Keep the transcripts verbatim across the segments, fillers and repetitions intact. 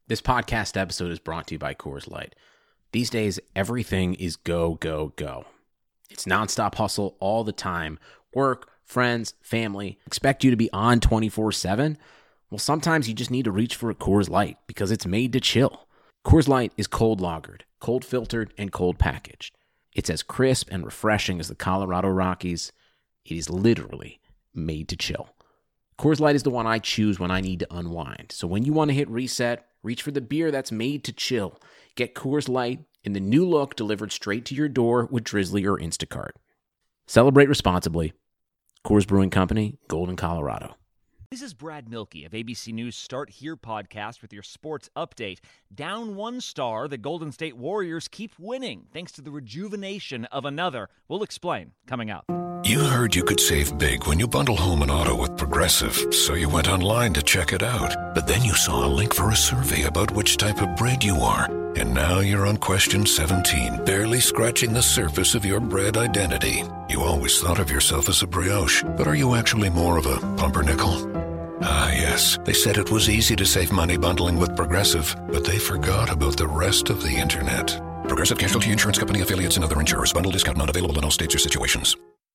This podcast episode is brought to you by Coors Light. These days, everything is go, go, go. It's nonstop hustle all the time. Work, friends, family, expect you to be on twenty-four seven. Well, sometimes you just need to reach for a Coors Light because it's made to chill. Coors Light is cold lagered, cold filtered, and cold packaged. It's as crisp and refreshing as the Colorado Rockies. It is literally made to chill. Coors Light is the one I choose when I need to unwind. So when you want to hit reset, reach for the beer that's made to chill. Get Coors Light in the new look delivered straight to your door with Drizzly or Instacart. Celebrate responsibly. Coors Brewing Company, Golden, Colorado. This is Brad Milkey of A B C News Start Here podcast with your sports update. Down one star, the Golden State Warriors keep winning thanks to the rejuvenation of another. We'll explain coming up. You heard you could save big when you bundle home and auto with Progressive, so you went online to check it out. But then you saw a link for a survey about which type of bread you are. And now you're on question seventeen, barely scratching the surface of your bread identity. You always thought of yourself as a brioche, but are you actually more of a pumpernickel? Ah, yes. They said it was easy to save money bundling with Progressive, but they forgot about the rest of the internet. Progressive Casualty Insurance Company, affiliates, and other insurers. Bundle discount not available in all states or situations.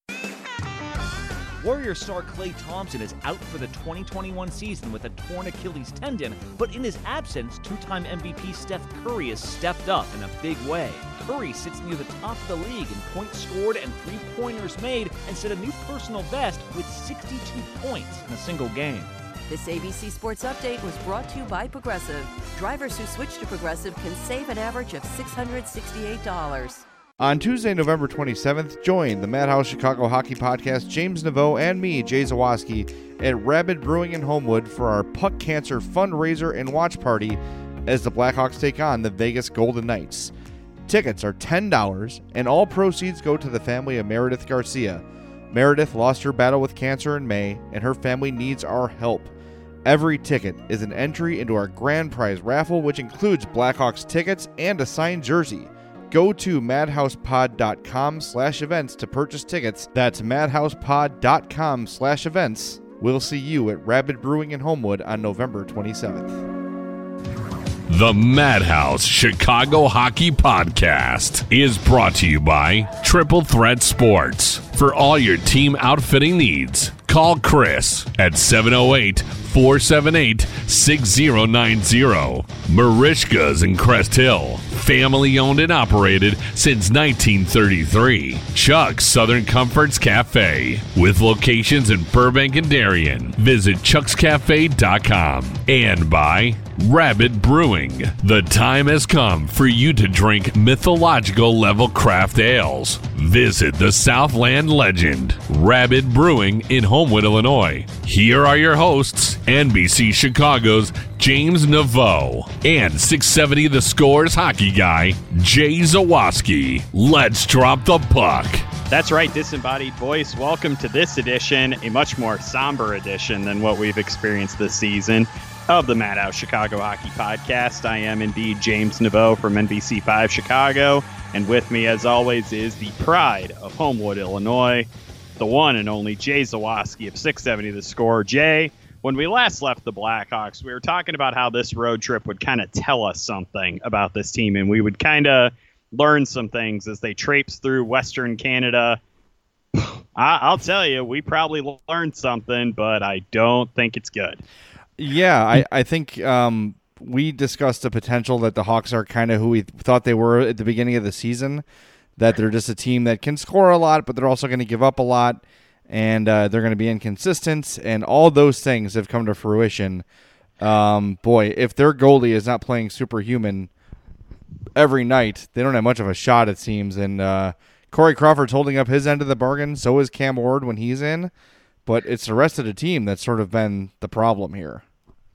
Warrior star Klay Thompson is out for the twenty twenty-one season with a torn Achilles tendon, but in his absence, two-time M V P Steph Curry has stepped up in a big way. Curry sits near the top of the league in points scored and three-pointers made and set a new personal best with sixty-two points in a single game. This A B C Sports Update was brought to you by Progressive. Drivers who switch to Progressive can save an average of six hundred sixty-eight dollars. On Tuesday, November twenty-seventh, join the Madhouse Chicago Hockey Podcast, James Naveau and me, Jay Zawaski, at Rabid Brewing in Homewood for our Puck Cancer fundraiser and watch party as the Blackhawks take on the Vegas Golden Knights. Tickets are ten dollars, and all proceeds go to the family of Meredith Garcia. Meredith lost her battle with cancer in May, and her family needs our help. Every ticket is an entry into our grand prize raffle, which includes Blackhawks tickets and a signed jersey. Go to madhousepod.com slash events to purchase tickets. That's madhousepod.com slash events. We'll see you at Rabid Brewing in Homewood on November twenty-seventh. The Madhouse Chicago Hockey Podcast is brought to you by Triple Threat Sports. For all your team outfitting needs, call Chris at seven oh eight, four seven eight, six oh nine oh. Marishka's in Crest Hill. Family owned and operated since nineteen thirty-three. Chuck's Southern Comforts Cafe. With locations in Burbank and Darien. Visit chucks cafe dot com. And by Rabid Brewing. The time has come for you to drink mythological level craft ales. Visit the Southland legend, Rabid Brewing in Homewood, Illinois. Here are your hosts, N B C Chicago's James Naveau and six seventy The Score's hockey guy, Jay Zawaski. Let's drop the puck. That's right, disembodied voice. Welcome to this edition, a much more somber edition than what we've experienced this season of the Madhouse Chicago Hockey Podcast. I am indeed James Naveau from N B C five Chicago, and with me, as always, is the pride of Homewood, Illinois, the one and only Jay Zawaski of six seventy The Score. Jay, when we last left the Blackhawks, we were talking about how this road trip would kind of tell us something about this team, and we would kind of learn some things as they traipse through Western Canada. I- I'll tell you, we probably learned something, but I don't think it's good. Yeah, I, I think um, we discussed the potential that the Hawks are kind of who we thought they were at the beginning of the season, that they're just a team that can score a lot, but they're also going to give up a lot, and uh, they're going to be inconsistent, and all those things have come to fruition. Um, boy, if their goalie is not playing superhuman every night, they don't have much of a shot, it seems, and uh, Corey Crawford's holding up his end of the bargain, so is Cam Ward when he's in. But it's the rest of the team that's sort of been the problem here.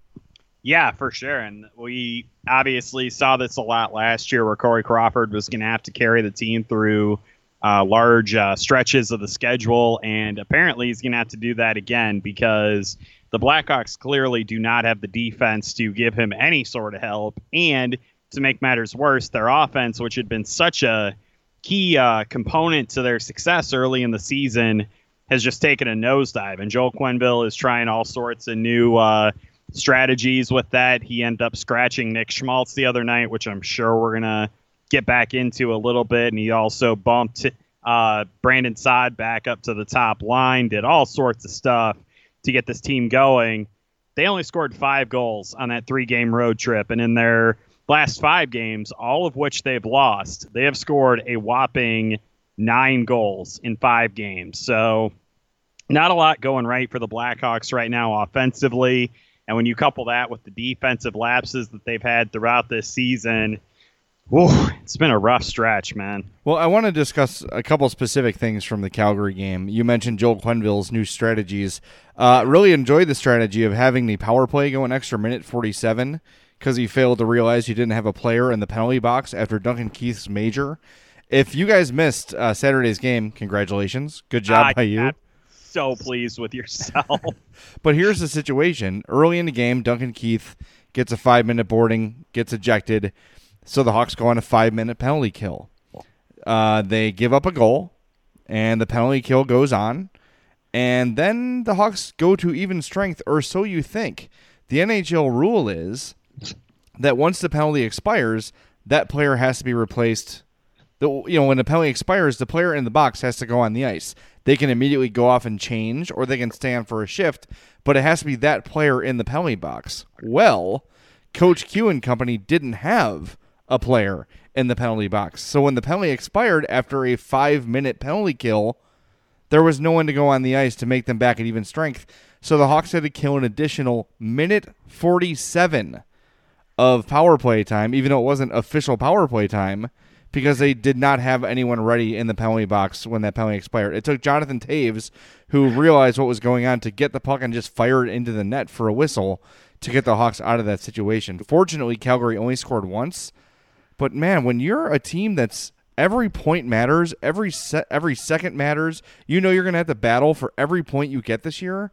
Yeah, for sure. And we obviously saw this a lot last year where Corey Crawford was going to have to carry the team through uh, large uh, stretches of the schedule. And apparently he's going to have to do that again because the Blackhawks clearly do not have the defense to give him any sort of help. And to make matters worse, their offense, which had been such a key uh, component to their success early in the season, has just taken a nosedive. And Joel Quenneville is trying all sorts of new uh, strategies with that. He ended up scratching Nick Schmaltz the other night, which I'm sure we're going to get back into a little bit. And he also bumped uh, Brandon Saad back up to the top line, did all sorts of stuff to get this team going. They only scored five goals on that three-game road trip. And in their last five games, all of which they've lost, they have scored a whopping nine goals in five games. So not a lot going right for the Blackhawks right now offensively. And when you couple that with the defensive lapses that they've had throughout this season, whew, it's been a rough stretch, man. Well, I want to discuss a couple specific things from the Calgary game. You mentioned Joel Quenneville's new strategies. Uh, really enjoyed the strategy of having the power play go an extra minute forty-seven because he failed to realize he didn't have a player in the penalty box after Duncan Keith's major. If you guys missed uh, Saturday's game, congratulations. Good job I, by you. I'm so pleased with yourself. But here's the situation. Early in the game, Duncan Keith gets a five-minute boarding, gets ejected, so the Hawks go on a five-minute penalty kill. Uh, they give up a goal, and the penalty kill goes on, and then the Hawks go to even strength, or so you think. The N H L rule is that once the penalty expires, that player has to be replaced. The, you know, when the penalty expires, the player in the box has to go on the ice. They can immediately go off and change, or they can stay on for a shift, but it has to be that player in the penalty box. Well, Coach Q and company didn't have a player in the penalty box. So when the penalty expired after a five-minute penalty kill, there was no one to go on the ice to make them back at even strength. So the Hawks had to kill an additional minute forty-seven of power play time, even though it wasn't official power play time, because they did not have anyone ready in the penalty box when that penalty expired. It took Jonathan Taves, who realized what was going on, to get the puck and just fire it into the net for a whistle to get the Hawks out of that situation. Fortunately, Calgary only scored once. But, man, when you're a team that's every point matters, every se- every second matters, you know you're going to have to battle for every point you get this year.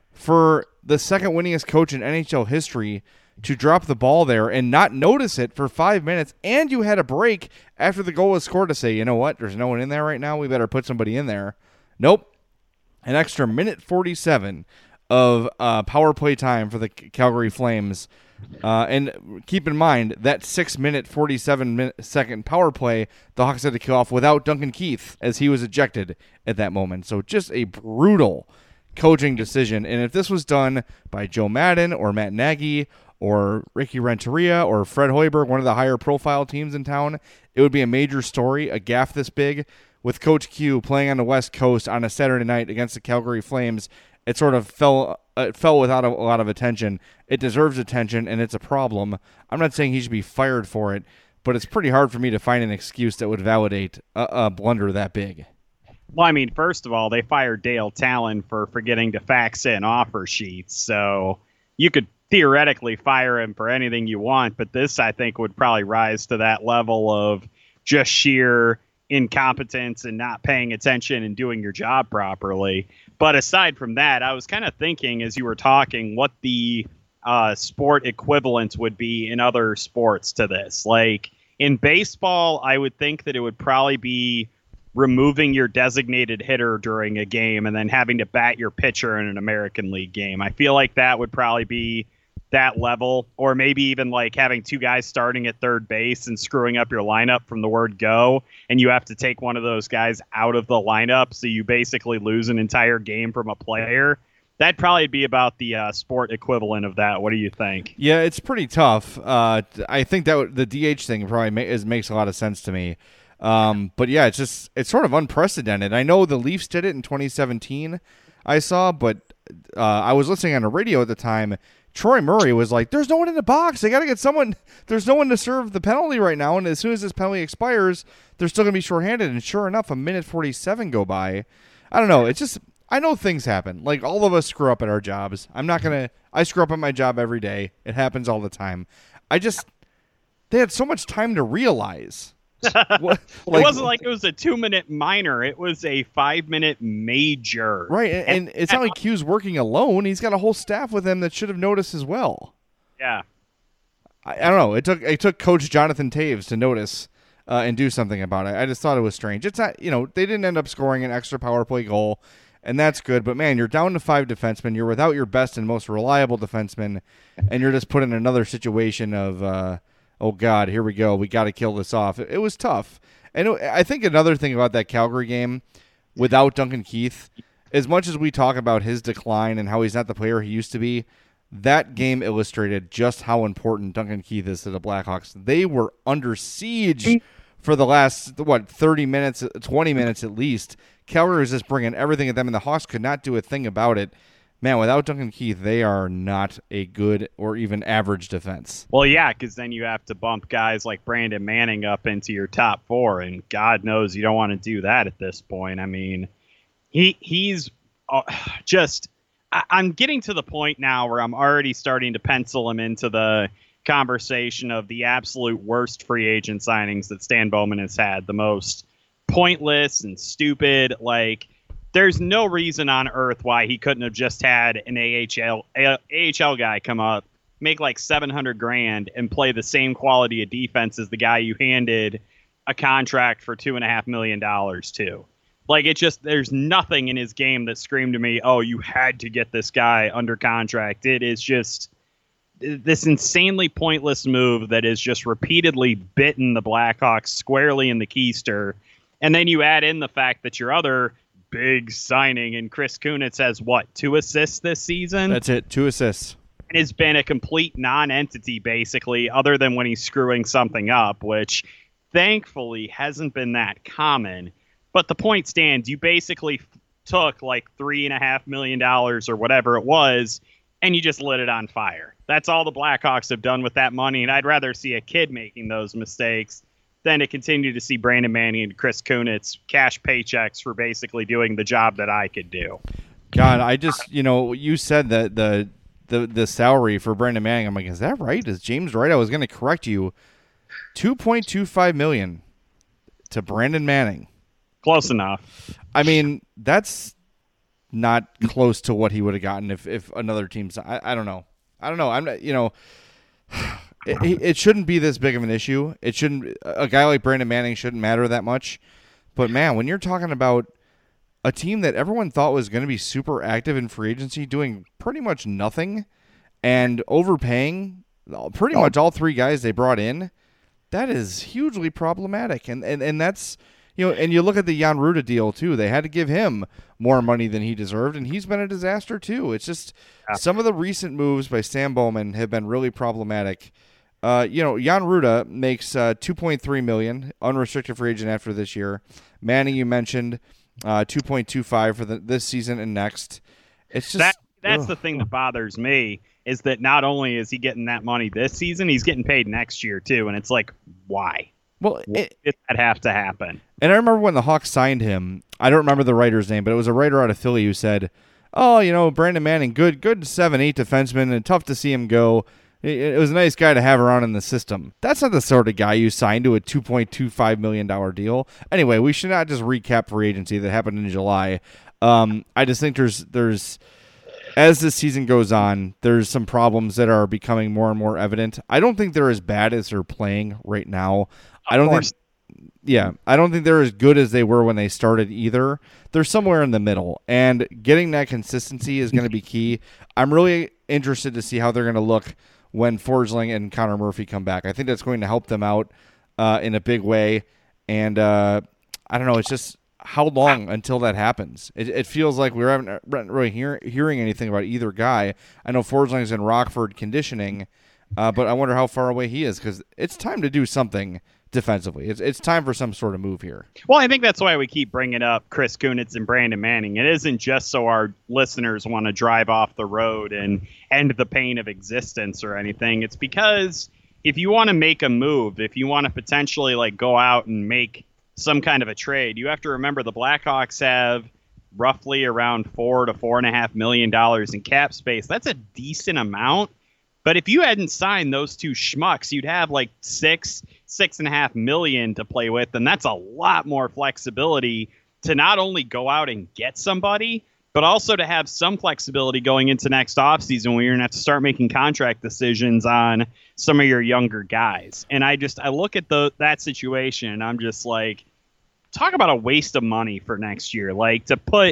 For the second winningest coach in N H L history to drop the ball there and not notice it for five minutes, and you had a break after the goal was scored to say, you know what, there's no one in there right now, we better put somebody in there. Nope. An extra minute forty-seven of uh, power play time for the Calgary Flames. Uh, and keep in mind, that six-minute, forty-seven-second power play, the Hawks had to kill off without Duncan Keith, as he was ejected at that moment. So just a brutal coaching decision. And if this was done by Joe Madden or Matt Nagy or Ricky Renteria or Fred Hoiberg, one of the higher profile teams in town, it would be a major story, a gaffe this big. With Coach Q playing on the West Coast on a Saturday night against the Calgary Flames, it sort of fell uh, it fell without a, a lot of attention. It deserves attention, and it's a problem. I'm not saying he should be fired for it, but it's pretty hard for me to find an excuse that would validate a, a blunder that big. Well, I mean, first of all, they fired Dale Talon for forgetting to fax in offer sheets, so you could theoretically fire him for anything you want, but this, I think, would probably rise to that level of just sheer incompetence and not paying attention and doing your job properly. But aside from that, I was kind of thinking as you were talking what the uh, sport equivalent would be in other sports to this. Like in baseball, I would think that it would probably be removing your designated hitter during a game and then having to bat your pitcher in an American League game. I feel like that would probably be that level, or maybe even like having two guys starting at third base and screwing up your lineup from the word go, and you have to take one of those guys out of the lineup, so you basically lose an entire game from a player. That'd probably be about the uh, sport equivalent of that. What do you think? Yeah, it's pretty tough. Uh, I think that w- the D H thing probably ma- is, makes a lot of sense to me. Um, but yeah, it's just it's sort of unprecedented. I know the Leafs did it in twenty seventeen, I saw, but uh, I was listening on the radio at the time. Troy Murray was like, there's no one in the box. They got to get someone. There's no one to serve the penalty right now. And as soon as this penalty expires, they're still going to be shorthanded. And sure enough, a minute forty-seven go by. I don't know. It's just, I know things happen. Like, all of us screw up at our jobs. I'm not going to, I screw up at my job every day. It happens all the time. I just, they had so much time to realize. What, like, it wasn't like it was a two-minute minor. It was a five-minute major. Right, and, and it's not like Q's working alone. He's got a whole staff with him that should have noticed as well. Yeah. I, I don't know. It took it took Coach Jonathan Taves to notice uh, and do something about it. I just thought it was strange. It's not, you know, they didn't end up scoring an extra power play goal. and that's good. But, man, you're down to five defensemen. You're without your best and most reliable defenseman, and you're just put in another situation of, uh, oh, God, here we go. We got to kill this off. It, it was tough. And it, I think another thing about that Calgary game without Duncan Keith, as much as we talk about his decline and how he's not the player he used to be, that game illustrated just how important Duncan Keith is to the Blackhawks. They were under siege for the last, what, thirty minutes, twenty minutes at least. Calgary was just bringing everything at them, and the Hawks could not do a thing about it. Man, without Duncan Keith, they are not a good or even average defense. Well, yeah, because then you have to bump guys like Brandon Manning up into your top four, and God knows you don't want to do that at this point. I mean, he he's uh, just... I, I'm getting to the point now where I'm already starting to pencil him into the conversation of the absolute worst free agent signings that Stan Bowman has had, the most pointless and stupid. Like, there's no reason on earth why he couldn't have just had an A H L A H L guy come up, make like seven hundred grand, and play the same quality of defense as the guy you handed a contract for two and a half million dollars to. Like, it just, there's nothing in his game that screamed to me, oh, you had to get this guy under contract. It is just this insanely pointless move that has just repeatedly bitten the Blackhawks squarely in the keister. And then you add in the fact that your other big signing in Chris Kunitz has, what, two assists this season? That's it, two assists. And has been a complete non-entity, basically, other than when he's screwing something up, which thankfully hasn't been that common. But the point stands, you basically f- took like three and a half million dollars or whatever it was, and you just lit it on fire. That's all the Blackhawks have done with that money, and I'd rather see a kid making those mistakes than to continue to see Brandon Manning and Chris Kunitz cash paychecks for basically doing the job that I could do. God, I just, you know, you said that the the the salary for Brandon Manning, I'm like, is that right? Is James right? I was going to correct you. two point two five million dollars to Brandon Manning. Close enough. I mean, that's not close to what he would have gotten if, if another team's. I, I don't know. I don't know. I'm not, you know, it, it shouldn't be this big of an issue. It shouldn't. A guy like Brandon Manning shouldn't matter that much. But man, when you're talking about a team that everyone thought was going to be super active in free agency, doing pretty much nothing and overpaying pretty much all three guys they brought in, that is hugely problematic. And and, and that's. You know, and you look at the Jan Ruda deal, too. They had to give him more money than he deserved, and he's been a disaster, too. It's just yeah. Some of the recent moves by Stan Bowman have been really problematic. Uh, you know, Jan Ruda makes uh, two point three million dollars, unrestricted free agent after this year. Manning, you mentioned, uh, two point two five for the, this season and next. It's just that, That's ugh. the thing that bothers me, is that not only is he getting that money this season, he's getting paid next year, too. And it's like, why? Well, it, did that have to happen? And I remember when the Hawks signed him, I don't remember the writer's name, but it was a writer out of Philly who said, oh, you know, Brandon Manning, good good seven eight defenseman, and tough to see him go. It, it was a nice guy to have around in the system. That's not the sort of guy you signed to a two point two five million dollars deal. Anyway, we should not just recap free agency that happened in July. Um, I just think there's there's as this season goes on, there's some problems that are becoming more and more evident. I don't think they're as bad as they're playing right now. I don't think, yeah, I don't think they're as good as they were when they started either. They're somewhere in the middle, and getting that consistency is going to be key. I'm really interested to see how they're going to look when Forsling and Connor Murphy come back. I think that's going to help them out uh, in a big way, and uh, I don't know, it's just how long until that happens? It, it feels like we haven't really hear, hearing anything about either guy. I know Forsling's in Rockford conditioning, uh, but I wonder how far away he is, because it's time to do something defensively. It's it's time for some sort of move here. Well, I think that's why we keep bringing up Chris Kunitz and Brandon Manning. It isn't just so our listeners want to drive off the road and end the pain of existence or anything. It's because if you want to make a move, if you want to potentially like go out and make some kind of a trade, you have to remember the Blackhawks have roughly around four to four and a half million dollars in cap space. That's a decent amount. But if you hadn't signed those two schmucks, you'd have like six, six and a half million to play with. And that's a lot more flexibility to not only go out and get somebody, but also to have some flexibility going into next offseason where you're going to have to start making contract decisions on some of your younger guys. And I just, I look at the that situation and I'm just like, talk about a waste of money for next year. Like to put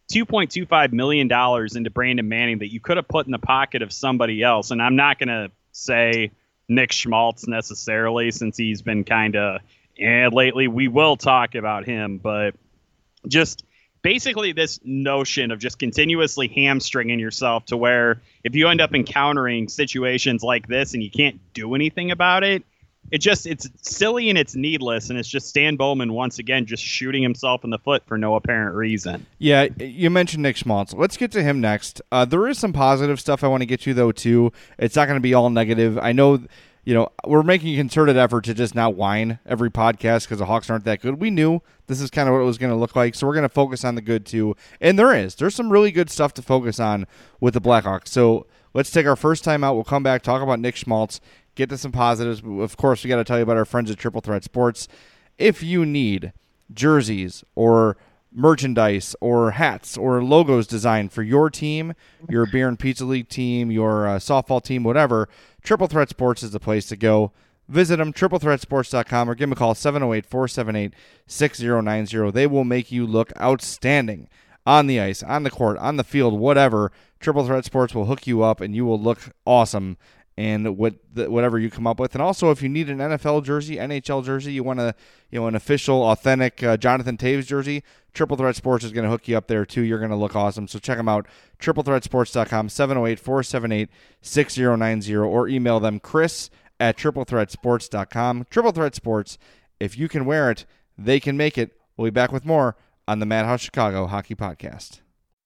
two point two five million dollars into Brandon Manning that you could have put in the pocket of somebody else. And I'm not going to say Nick Schmaltz necessarily, since he's been kind of, and lately we will talk about him, but just basically this notion of just continuously hamstringing yourself to where if you end up encountering situations like this and you can't do anything about it, it just, it's silly and it's needless. And it's just Stan Bowman once again just shooting himself in the foot for no apparent reason. Yeah, you mentioned Nick Schmaltz. Let's get to him next. Uh, there is some positive stuff I want to get to, though, too. It's not going to be all negative. I know, you know, we're making a concerted effort to just not whine every podcast because the Hawks aren't that good. We knew this is kind of what it was going to look like, so we're going to focus on the good, too. And there is. There's some really good stuff to focus on with the Blackhawks. So let's take our first time out. We'll come back, talk about Nick Schmaltz, get to some positives. Of course, we got to tell you about our friends at Triple Threat Sports. If you need jerseys or merchandise or hats or logos designed for your team, your beer and pizza league team, your uh, softball team, whatever, Triple Threat Sports is the place to go. Visit them, triple threat sports dot com, or give them a call, seven oh eight, four seven eight, six oh nine oh. They will make you look outstanding on the ice, on the court, on the field, whatever. Triple Threat Sports will hook you up, and you will look awesome and what the, whatever you come up with. And also, if you need an N F L jersey, N H L jersey, you want a you know an official, authentic uh, Jonathan Taves jersey, Triple Threat Sports is going to hook you up there too. You're going to look awesome. So check them out, triple threat sports dot com, seven oh eight, four seven eight, six oh nine oh, or email them, Chris at triple threat sports dot com. Triple Threat Sports, if you can wear it, they can make it. We'll be back with more on the Madhouse Chicago Hockey Podcast.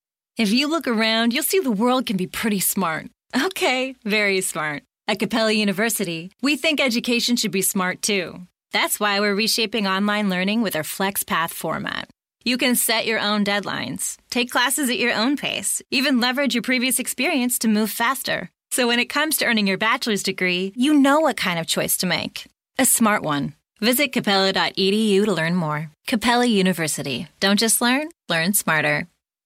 If you look around, you'll see the world can be pretty smart. Okay, very smart. At Capella University, we think education should be smart too. That's why we're reshaping online learning with our FlexPath format. You can set your own deadlines, take classes at your own pace, even leverage your previous experience to move faster. So when it comes to earning your bachelor's degree, you know what kind of choice to make. A smart one. Visit capella dot e d u to learn more. Capella University. Don't just learn, learn smarter.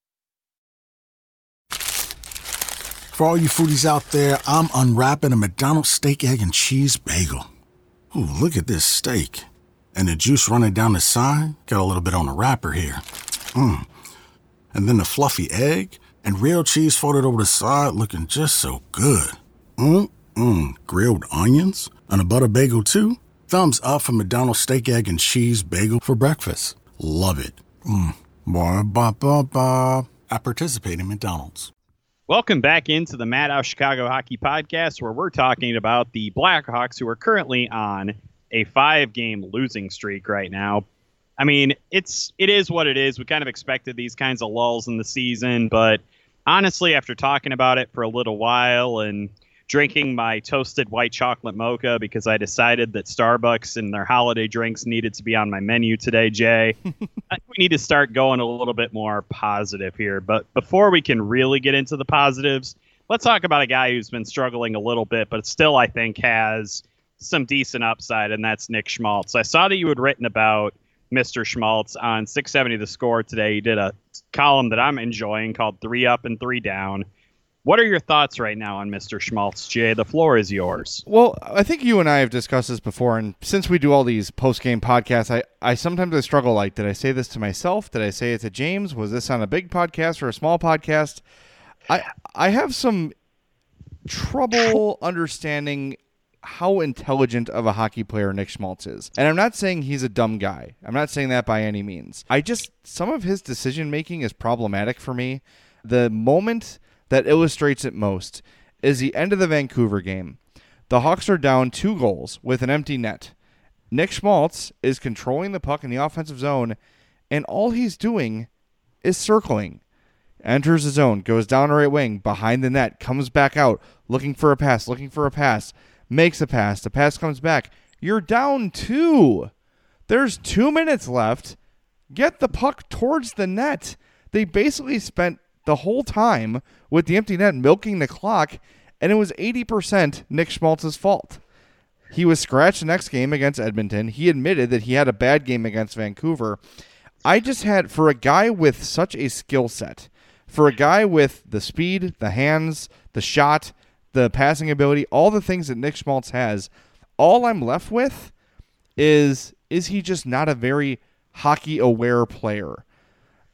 For all you foodies out there, I'm unwrapping a McDonald's steak, egg, and cheese bagel. Ooh, look at this steak. And the juice running down the side, got a little bit on the wrapper here. Mmm. And then the fluffy egg and real cheese folded over the side, looking just so good. Mmm-mmm. Grilled onions and a butter bagel too. Thumbs up for McDonald's steak, egg, and cheese bagel for breakfast. Love it. Mmm. Ba-ba-ba-ba. I participate in McDonald's. Welcome back into the Madhouse Chicago Hockey Podcast, where we're talking about the Blackhawks, who are currently on a five-game losing streak right now. I mean, it's it is what it is. We kind of expected these kinds of lulls in the season, but honestly, after talking about it for a little while and drinking my toasted white chocolate mocha because I decided that Starbucks and their holiday drinks needed to be on my menu today, Jay, I think we need to start going a little bit more positive here. But before we can really get into the positives, let's talk about a guy who's been struggling a little bit, but still I think has some decent upside, and that's Nick Schmaltz. I saw that you had written about Mister Schmaltz on six seventy The Score today. You did a column that I'm enjoying called Three Up and Three Down. What are your thoughts right now on Mister Schmaltz, Jay? The floor is yours. Well, I think you and I have discussed this before, and since we do all these post-game podcasts, I, I sometimes I struggle, like, did I say this to myself? Did I say it to James? Was this on a big podcast or a small podcast? I I have some trouble understanding how intelligent of a hockey player Nick Schmaltz is. And I'm not saying he's a dumb guy. I'm not saying that by any means. I just, some of his decision-making is problematic for me. The moment that illustrates it most is the end of the Vancouver game. The Hawks are down two goals with an empty net. Nick Schmaltz is controlling the puck in the offensive zone, and all he's doing is circling. Enters the zone, goes down the right wing, behind the net, comes back out, looking for a pass, looking for a pass, makes a pass, the pass comes back. You're down two. There's two minutes left. Get the puck towards the net. They basically spent the whole time with the empty net milking the clock, and it was eighty percent Nick Schmaltz's fault. He was scratched the next game against Edmonton. He admitted that he had a bad game against Vancouver. I just had, for a guy with such a skill set, for a guy with the speed, the hands, the shot, the passing ability, all the things that Nick Schmaltz has, all I'm left with is, is he just not a very hockey-aware player?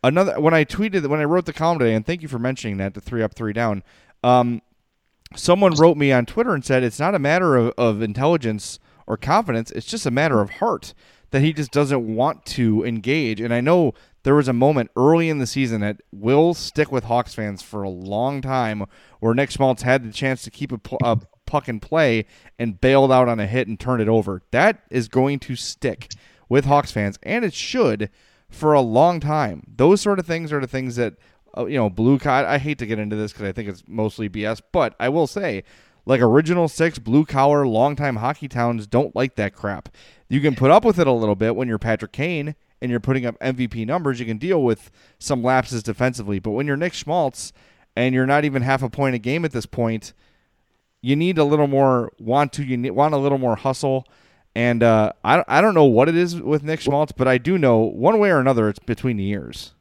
another when I tweeted when I wrote the column today, and thank you for mentioning that, the three up, three down. Um, someone wrote me on Twitter and said it's not a matter of, of intelligence or confidence; it's just a matter of heart, that he just doesn't want to engage. And I know there was a moment early in the season that will stick with Hawks fans for a long time, where Nick Schmaltz had the chance to keep a, a puck in play and bailed out on a hit and turned it over. That is going to stick with Hawks fans, and it should, for a long time. Those sort of things are the things that, uh, you know, blue collar. I hate to get into this because I think it's mostly B S, but I will say, like original six, blue collar, longtime hockey towns don't like that crap. You can put up with it a little bit when you're Patrick Kane and you're putting up M V P numbers. You can deal with some lapses defensively, but when you're Nick Schmaltz and you're not even half a point a game at this point, you need a little more want to. You need, want a little more hustle. And uh, I, I don't know what it is with Nick Schmaltz, but I do know one way or another it's between the ears.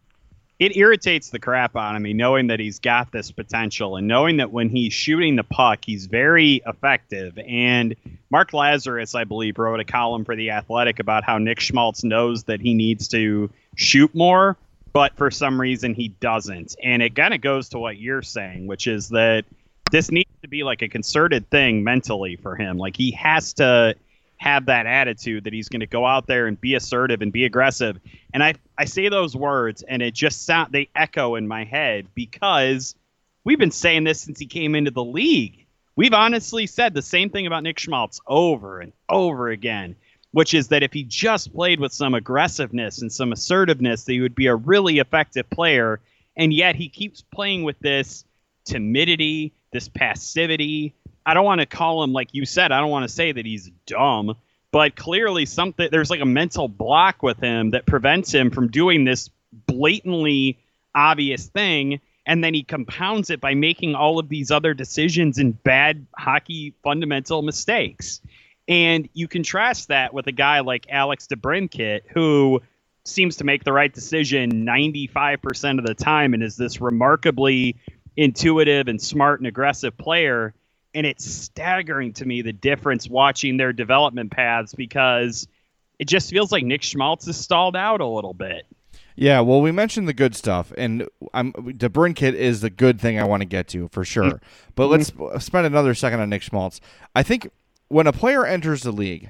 It irritates the crap out of me knowing that he's got this potential and knowing that when he's shooting the puck, he's very effective. And Mark Lazarus, I believe, wrote a column for The Athletic about how Nick Schmaltz knows that he needs to shoot more, but for some reason he doesn't. And it kind of goes to what you're saying, which is that this needs to be like a concerted thing mentally for him. Like he has to have that attitude that he's going to go out there and be assertive and be aggressive. And I, I say those words and it just sound, they echo in my head because we've been saying this since he came into the league. We've honestly said the same thing about Nick Schmaltz over and over again, which is that if he just played with some aggressiveness and some assertiveness, that he would be a really effective player. And yet he keeps playing with this timidity, this passivity. I don't want to call him, like you said, I don't want to say that he's dumb, but clearly something there's like a mental block with him that prevents him from doing this blatantly obvious thing. And then he compounds it by making all of these other decisions and bad hockey fundamental mistakes. And you contrast that with a guy like Alex DeBrincat, who seems to make the right decision ninety-five percent of the time and is this remarkably intuitive and smart and aggressive player. And it's staggering to me, the difference watching their development paths, because it just feels like Nick Schmaltz is stalled out a little bit. Yeah, well, we mentioned the good stuff, and I'm, DeBrincat is the good thing I want to get to, for sure. Mm-hmm. But let's spend another second on Nick Schmaltz. I think when a player enters the league,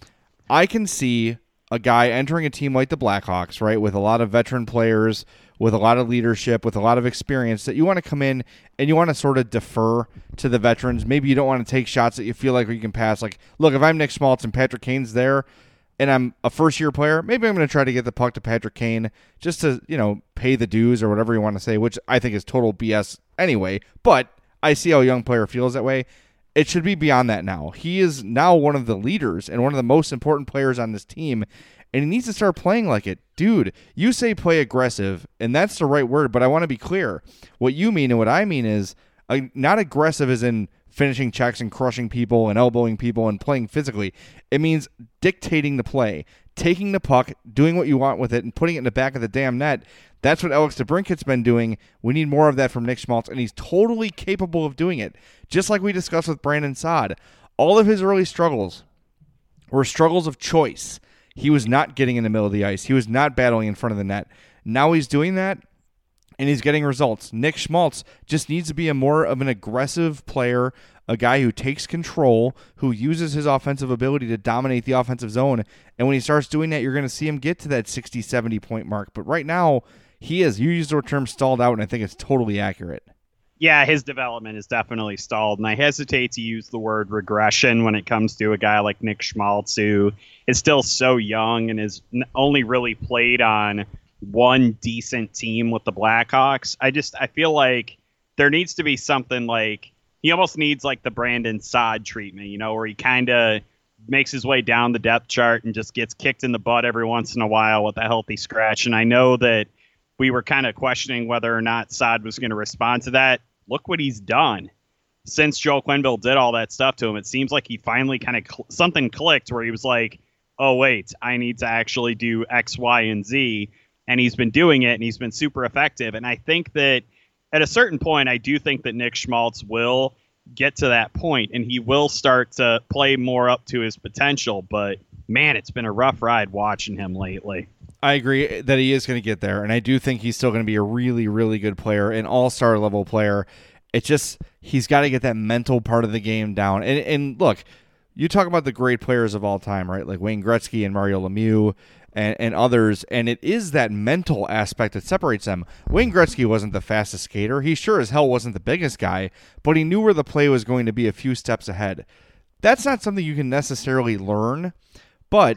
I can see a guy entering a team like the Blackhawks, right, with a lot of veteran players, with a lot of leadership, with a lot of experience, that you want to come in and you want to sort of defer to the veterans. Maybe you don't want to take shots that you feel like you can pass. Like, look, if I'm Nick Schmaltz and Patrick Kane's there and I'm a first-year player, maybe I'm going to try to get the puck to Patrick Kane just to, you know, pay the dues or whatever you want to say, which I think is total B S anyway. But I see how a young player feels that way. It should be beyond that now. He is now one of the leaders and one of the most important players on this team, and he needs to start playing like it. Dude, you say play aggressive, and that's the right word, but I want to be clear. What you mean and what I mean is uh, not aggressive as in finishing checks and crushing people and elbowing people and playing physically. It means dictating the play, taking the puck, doing what you want with it, and putting it in the back of the damn net. That's what Alex DeBrincat's been doing. We need more of that from Nick Schmaltz, and he's totally capable of doing it. Just like we discussed with Brandon Saad, all of his early struggles were struggles of choice. He was not getting in the middle of the ice. He was not battling in front of the net. Now he's doing that, and he's getting results. Nick Schmaltz just needs to be a more of an aggressive player, a guy who takes control, who uses his offensive ability to dominate the offensive zone. And when he starts doing that, you're going to see him get to that sixty, seventy point mark. But right now, he is. You used the term stalled out, and I think it's totally accurate. Yeah, his development is definitely stalled, and I hesitate to use the word regression when it comes to a guy like Nick Schmaltz, who is still so young and has only really played on one decent team with the Blackhawks. I just, I feel like there needs to be something like, he almost needs like the Brandon Saad treatment, you know, where he kind of makes his way down the depth chart and just gets kicked in the butt every once in a while with a healthy scratch. And I know that we were kind of questioning whether or not Saad was going to respond to that. Look what he's done. Since Joel Quenneville did all that stuff to him, it seems like he finally kind of cl- something clicked where he was like, oh, wait, I need to actually do X, Y, and Z. And he's been doing it, and he's been super effective. And I think that at a certain point, I do think that Nick Schmaltz will get to that point, and he will start to play more up to his potential. But, man, it's been a rough ride watching him lately. I agree that he is going to get there, and I do think he's still going to be a really, really good player, an all-star level player. It's just he's got to get that mental part of the game down. And, and look, you talk about the great players of all time, right? Like Wayne Gretzky and Mario Lemieux and, and others, and it is that mental aspect that separates them. Wayne Gretzky wasn't the fastest skater. He sure as hell wasn't the biggest guy, but he knew where the play was going to be a few steps ahead. That's not something you can necessarily learn, but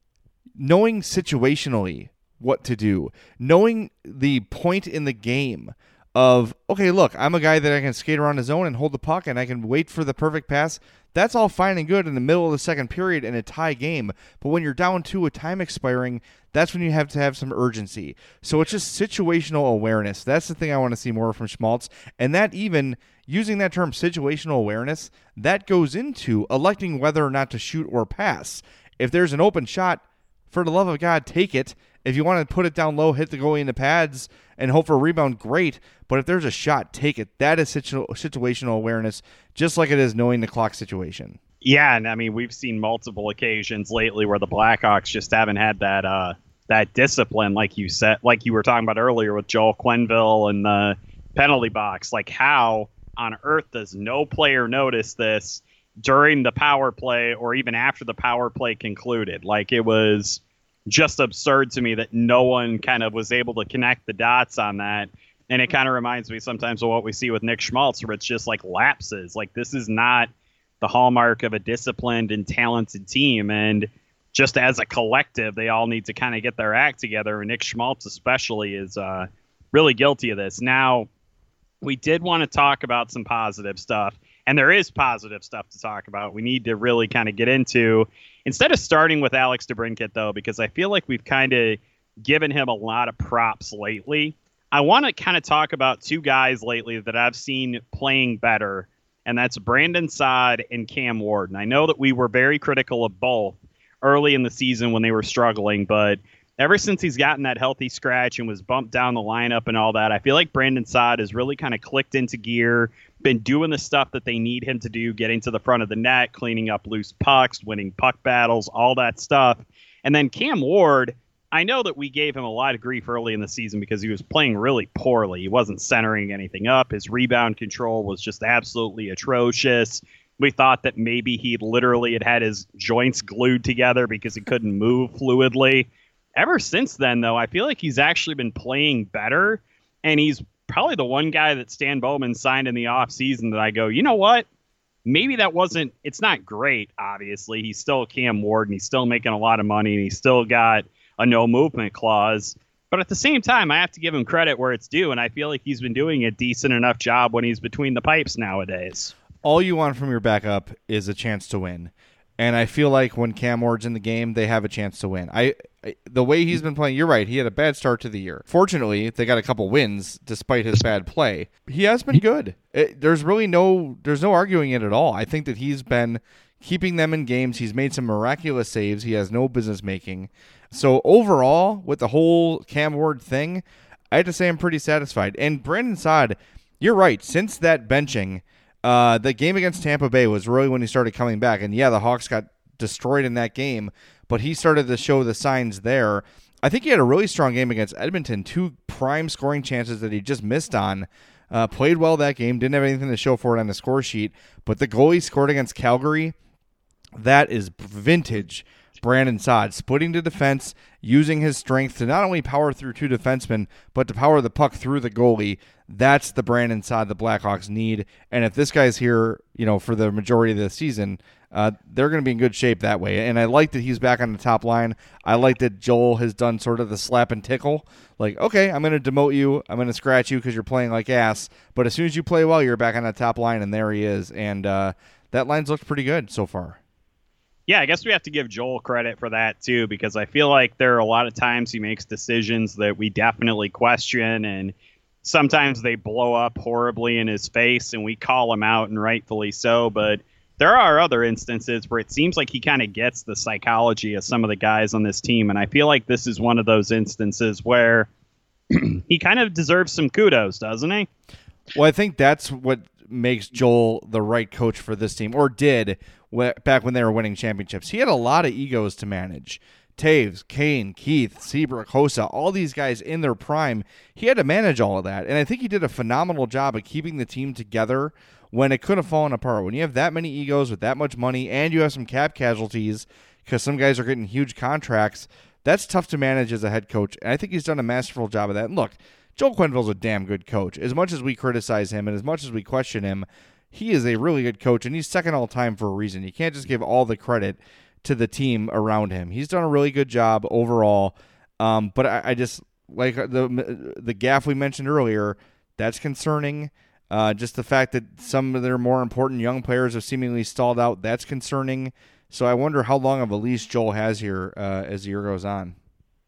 knowing situationally what to do, knowing the point in the game of, okay, look, I'm a guy that I can skate around the zone and hold the puck and I can wait for the perfect pass. That's all fine and good in the middle of the second period in a tie game. But when you're down two with time expiring, that's when you have to have some urgency. So it's just situational awareness. That's the thing I want to see more from Schmaltz. And that even, using that term situational awareness, that goes into electing whether or not to shoot or pass. If there's an open shot, for the love of God, take it. If you want to put it down low, hit the goalie in the pads and hope for a rebound, great. But if there's a shot, take it. That is situ- situational awareness, just like it is knowing the clock situation. Yeah, and I mean, we've seen multiple occasions lately where the Blackhawks just haven't had that uh, that discipline, like you said, like you were talking about earlier with Joel Quenneville and the penalty box. Like, how on earth does no player notice this during the power play or even after the power play concluded? Like, it was just absurd to me that no one kind of was able to connect the dots on that. And it kind of reminds me sometimes of what we see with Nick Schmaltz, where it's just like lapses. Like, this is not the hallmark of a disciplined and talented team. And just as a collective, they all need to kind of get their act together. And Nick Schmaltz especially is uh, really guilty of this. Now, we did want to talk about some positive stuff. And there is positive stuff to talk about. We need to really kind of get into, instead of starting with Alex DeBrincat, though, because I feel like we've kind of given him a lot of props lately. I want to kind of talk about two guys lately that I've seen playing better, and that's Brandon Saad and Cam Ward. And I know that we were very critical of both early in the season when they were struggling, but ever since he's gotten that healthy scratch and was bumped down the lineup and all that, I feel like Brandon Saad has really kind of clicked into gear, been doing the stuff that they need him to do, getting to the front of the net, cleaning up loose pucks, winning puck battles, all that stuff. And then Cam Ward, I know that we gave him a lot of grief early in the season because he was playing really poorly. He wasn't centering anything up. His rebound control was just absolutely atrocious. We thought that maybe he literally had had his joints glued together because he couldn't move fluidly. Ever since then, though, I feel like he's actually been playing better, and he's probably the one guy that Stan Bowman signed in the offseason that I go, you know what? Maybe that wasn't, it's not great, obviously. He's still Cam Ward, and he's still making a lot of money, and he's still got a no movement clause. But at the same time, I have to give him credit where it's due, and I feel like he's been doing a decent enough job when he's between the pipes nowadays. All you want from your backup is a chance to win. And I feel like when Cam Ward's in the game, they have a chance to win. I, I the way he's been playing, you're right, he had a bad start to the year. Fortunately, they got a couple wins despite his bad play. He has been good. It, there's really no there's no arguing it at all. I think that he's been keeping them in games. He's made some miraculous saves he has no business making. So overall, with the whole Cam Ward thing, I have to say I'm pretty satisfied. And Brandon Saad, you're right, since that benching, Uh, the game against Tampa Bay was really when he started coming back. And yeah, the Hawks got destroyed in that game, but he started to show the signs there. I think he had a really strong game against Edmonton, two prime scoring chances that he just missed on. Uh, played well that game, didn't have anything to show for it on the score sheet, but the goal he scored against Calgary, that is vintage Brandon Saad, splitting the defense, using his strength to not only power through two defensemen, but to power the puck through the goalie. That's the Brandon Saad the Blackhawks need. And if this guy's here, you know, for the majority of the season, uh, they're going to be in good shape that way. And I like that he's back on the top line. I like that Joel has done sort of the slap and tickle. Like, okay, I'm going to demote you. I'm going to scratch you because you're playing like ass. But as soon as you play well, you're back on the top line, and there he is. And uh, that line's looked pretty good so far. Yeah, I guess we have to give Joel credit for that, too, because I feel like there are a lot of times he makes decisions that we definitely question, and sometimes they blow up horribly in his face, and we call him out, and rightfully so. But there are other instances where it seems like he kind of gets the psychology of some of the guys on this team, and I feel like this is one of those instances where he kind of deserves some kudos, doesn't he? Well, I think that's what makes Joel the right coach for this team, or did back when they were winning championships. He had a lot of egos to manage. Taves, Kane, Keith, Seabrook, Hossa, all these guys in their prime. He had to manage all of that, and I think he did a phenomenal job of keeping the team together when it could have fallen apart. When you have that many egos with that much money and you have some cap casualties because some guys are getting huge contracts, that's tough to manage as a head coach, and I think he's done a masterful job of that. And look, Joel Quenneville's a damn good coach. As much as we criticize him and as much as we question him, he is a really good coach, and he's second all time for a reason. You can't just give all the credit to the team around him. He's done a really good job overall, um, but I, I just, like the the gaffe we mentioned earlier, that's concerning. Uh, just the fact that some of their more important young players have seemingly stalled out, that's concerning. So I wonder how long of a leash Joel has here uh, as the year goes on.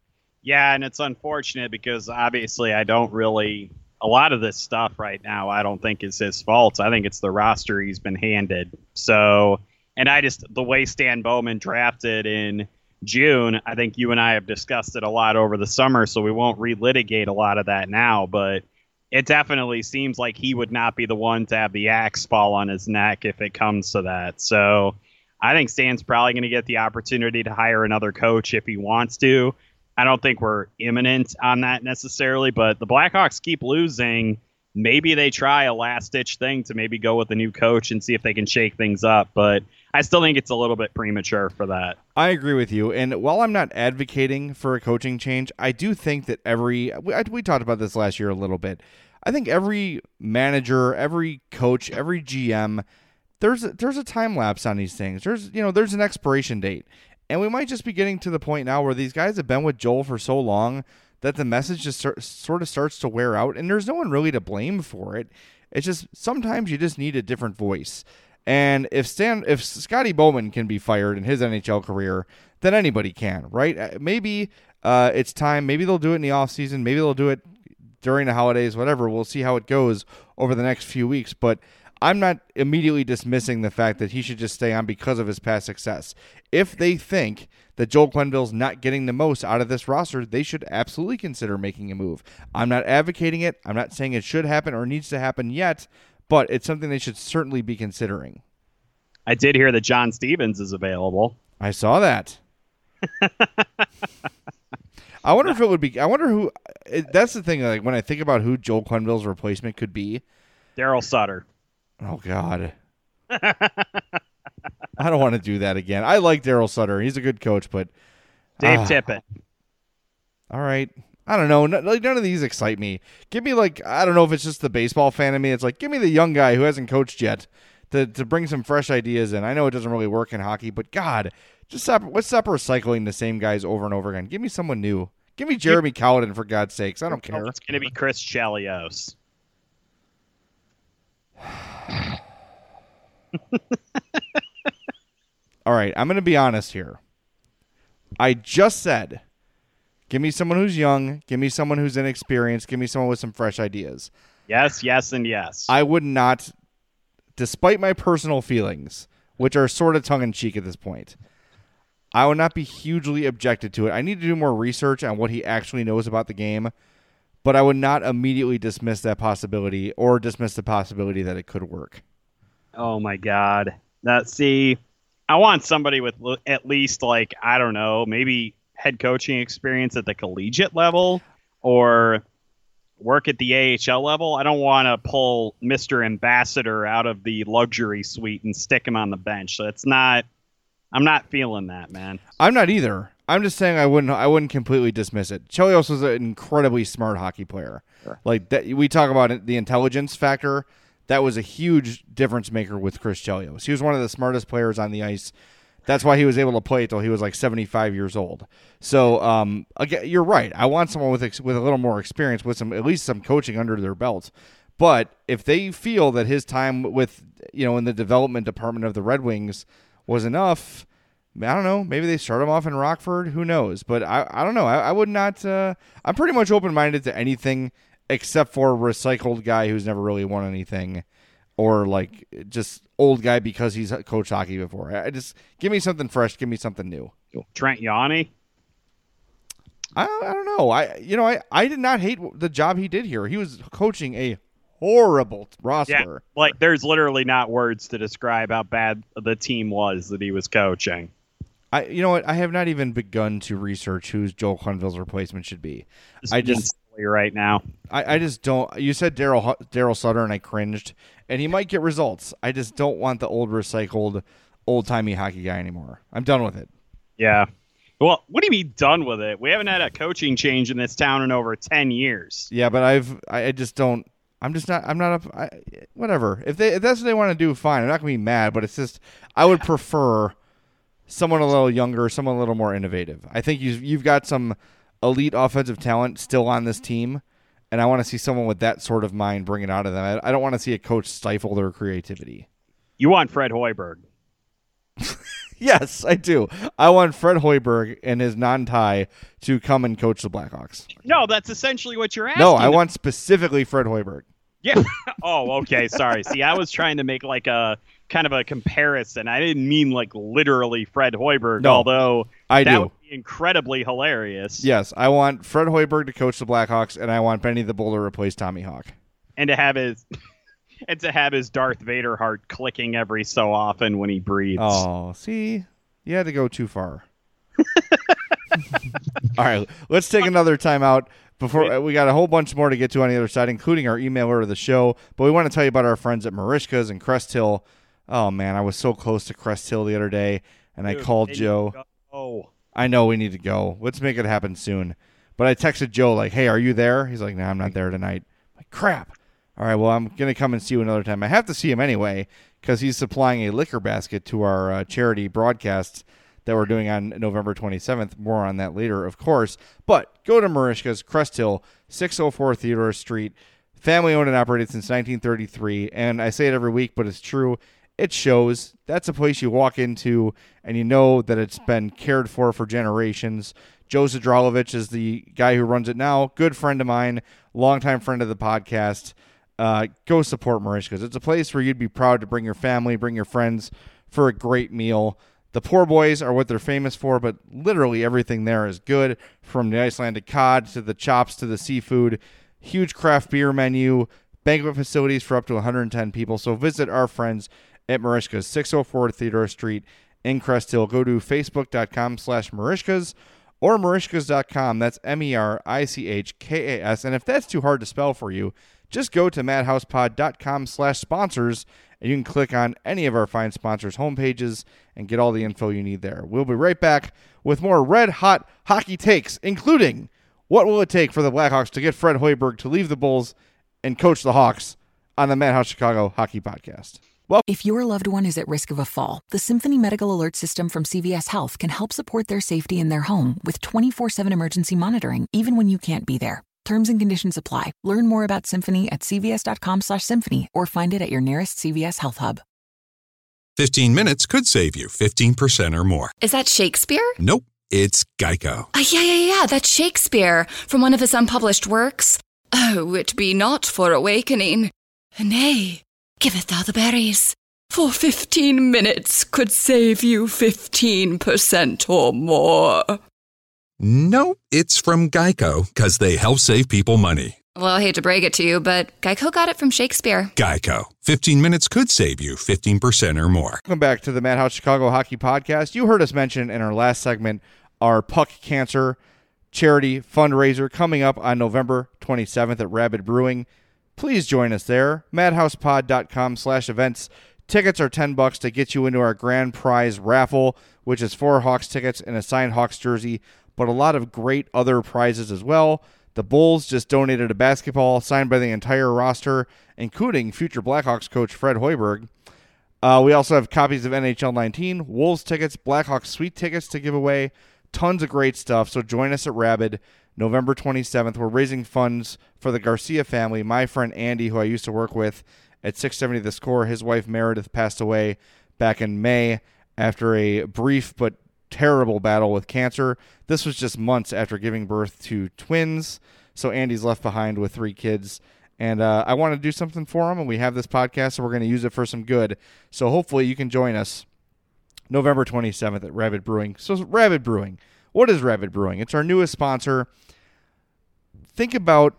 Yeah, and it's unfortunate because obviously I don't really – a lot of this stuff right now I don't think is his fault. I think it's the roster he's been handed. So – and I just – the way Stan Bowman drafted in June, I think you and I have discussed it a lot over the summer, so we won't relitigate a lot of that now, but – it definitely seems like he would not be the one to have the axe fall on his neck if it comes to that. So I think Stan's probably going to get the opportunity to hire another coach if he wants to. I don't think we're imminent on that necessarily, but the Blackhawks keep losing. Maybe they try a last-ditch thing to maybe go with a new coach and see if they can shake things up. But I still think it's a little bit premature for that. I agree with you. And while I'm not advocating for a coaching change, I do think that every we, we talked about this last year a little bit. I think every manager, every coach, every G M, there's a, there's a time lapse on these things. There's you know there's an expiration date, and we might just be getting to the point now where these guys have been with Joel for so long that the message just start, sort of starts to wear out, and there's no one really to blame for it. It's just sometimes you just need a different voice. And if Stan, if Scotty Bowman can be fired in his N H L career, then anybody can, right? Maybe uh, it's time. Maybe they'll do it in the offseason. Maybe they'll do it during the holidays, whatever. We'll see how it goes over the next few weeks. But I'm not immediately dismissing the fact that he should just stay on because of his past success. If they think that Joel Quenneville's not getting the most out of this roster, they should absolutely consider making a move. I'm not advocating it. I'm not saying it should happen or needs to happen yet, but it's something they should certainly be considering. I did hear that John Stevens is available. I saw that. I wonder if it would be. I wonder who. It, that's the thing. Like when I think about who Joel Quenneville's replacement could be, Daryl Sutter. Oh God. I don't want to do that again. I like Daryl Sutter. He's a good coach, but Dave uh, Tippett. All right. I don't know. No, like none of these excite me. Give me like I don't know if it's just the baseball fan in me. It's like give me the young guy who hasn't coached yet to to bring some fresh ideas in. I know it doesn't really work in hockey, but God, just stop. Let's stop recycling the same guys over and over again. Give me someone new. Give me Jeremy Cowden, for God's sakes. I don't care. It's going to be Chris Chelios. All right, I'm going to be honest here. I just said, give me someone who's young. Give me someone who's inexperienced. Give me someone with some fresh ideas. Yes, yes, and yes. I would not, despite my personal feelings, which are sort of tongue-in-cheek at this point, I would not be hugely objected to it. I need to do more research on what he actually knows about the game, but I would not immediately dismiss that possibility or dismiss the possibility that it could work. Oh, my God. That, see, I want somebody with at least, like, I don't know, maybe head coaching experience at the collegiate level or work at the A H L level. I don't want to pull Mister Ambassador out of the luxury suite and stick him on the bench. So it's not... I'm not feeling that, man. I'm not either. I'm just saying I wouldn't I wouldn't completely dismiss it. Chelios was an incredibly smart hockey player. Sure. Like that, we talk about the intelligence factor. That was a huge difference maker with Chris Chelios. He was one of the smartest players on the ice. That's why he was able to play until he was like seventy-five years old. So, um, again, you're right. I want someone with ex- with a little more experience, with some at least some coaching under their belt. But if they feel that his time with you know in the development department of the Red Wings was enough, I don't know. Maybe they start him off in Rockford. Who knows? But I, I don't know. I, I would not. Uh, I'm pretty much open-minded to anything except for a recycled guy who's never really won anything, or like just old guy because he's coached hockey before. I just give me something fresh. Give me something new. Trent Yawney. I, I don't know. I you know I, I did not hate the job he did here. He was coaching a horrible roster. Yeah, like there's literally not words to describe how bad the team was that he was coaching. I, you know what? I have not even begun to research who Joel Quenneville's replacement should be. This I just right now. I, I just don't. You said Daryl Daryl Sutter, and I cringed. And he might get results. I just don't want the old recycled, old timey hockey guy anymore. I'm done with it. Yeah. Well, what do you mean done with it? We haven't had a coaching change in this town in over ten years. Yeah, but I've I just don't. I'm just not. I'm not up. I, whatever. If they if that's what they want to do, fine. I'm not gonna be mad. But it's just I would prefer someone a little younger, someone a little more innovative. I think you've you've got some elite offensive talent still on this team, and I want to see someone with that sort of mind bring it out of them. I, I don't want to see a coach stifle their creativity. You want Fred Hoiberg? Yes, I do. I want Fred Hoiberg and his non-tie to come and coach the Blackhawks. No, that's essentially what you're asking. No, I want specifically Fred Hoiberg. Yeah. Oh, okay. Sorry. See, I was trying to make like a kind of a comparison. I didn't mean like literally Fred Hoiberg, no, although I that do. would be incredibly hilarious. Yes, I want Fred Hoiberg to coach the Blackhawks, and I want Benny the Bull to replace Tommy Hawk. And to have his and to have his Darth Vader heart clicking every so often when he breathes. Oh, see? You had to go too far. All right, let's take another timeout. Before we got a whole bunch more to get to on the other side, including our emailer of the show. But we want to tell you about our friends at Merichka's and Crest Hill. Oh man, I was so close to Crest Hill the other day, and Dude, I called Joe. Oh, I know we need to go. Let's make it happen soon. But I texted Joe like, "Hey, are you there?" He's like, "No, nah, I'm not there tonight." I'm like, crap. All right, well, I'm gonna come and see you another time. I have to see him anyway because he's supplying a liquor basket to our uh, charity broadcasts that we're doing on November twenty-seventh. More on that later, of course. But go to Merichka's, Crest Hill, six oh four Theodore Street. Family owned and operated since nineteen thirty-three. And I say it every week, but it's true. It shows. That's a place you walk into and you know that it's been cared for for generations. Joe Zadralovich is the guy who runs it now. Good friend of mine, longtime friend of the podcast. Uh, go support Merichka's. It's a place where you'd be proud to bring your family, bring your friends for a great meal. The poor boys are what they're famous for, but literally everything there is good, from the Icelandic cod to the chops to the seafood. Huge craft beer menu, banquet facilities for up to one hundred ten people. So visit our friends at Merichka's, six oh four Theodore Street in Crest Hill. Go to facebook.com slash Merichka's or Merichkas dot com. That's M E R I C H K A S. And if that's too hard to spell for you, just go to madhousepod.com slash sponsors, and you can click on any of our fine sponsors' homepages and get all the info you need there. We'll be right back with more red-hot hockey takes, including what will it take for the Blackhawks to get Fred Hoiberg to leave the Bulls and coach the Hawks on the Madhouse Chicago Hockey Podcast. Well, if your loved one is at risk of a fall, the Symphony Medical Alert System from C V S Health can help support their safety in their home with twenty-four seven emergency monitoring, even when you can't be there. Terms and conditions apply. Learn more about Symphony at cvs.com slash symphony or find it at your nearest C V S Health Hub. fifteen minutes could save you fifteen percent or more. Is that Shakespeare? Nope, it's Geico. Uh, yeah, yeah, yeah, that's Shakespeare from one of his unpublished works. Oh, it be not for awakening. Nay, giveth thou the berries. For fifteen minutes could save you fifteen percent or more. Nope, it's from Geico, because they help save people money. Well, I hate to break it to you, but Geico got it from Shakespeare. Geico. fifteen minutes could save you fifteen percent or more. Welcome back to the Madhouse Chicago Hockey Podcast. You heard us mention in our last segment our Puck Cancer charity fundraiser coming up on November twenty-seventh at Rabid Brewing. Please join us there. madhousepod.com slash events. Tickets are ten bucks to get you into our grand prize raffle, which is four Hawks tickets and a signed Hawks jersey, but a lot of great other prizes as well. The Bulls just donated a basketball signed by the entire roster, including future Blackhawks coach Fred Hoiberg. Uh, we also have copies of N H L nineteen, Wolves tickets, Blackhawks suite tickets to give away. Tons of great stuff. So join us at Rabid November twenty-seventh. We're raising funds for the Garcia family. My friend Andy, who I used to work with at six seventy The Score, his wife Meredith passed away back in May after a brief but terrible battle with cancer. This was just months after giving birth to twins. So Andy's left behind with three kids. And uh, I want to do something for him, and we have this podcast, so we're going to use it for some good. So hopefully you can join us November twenty-seventh at Rabid Brewing. So Rabid Brewing. What is Rabid Brewing? It's our newest sponsor. Think about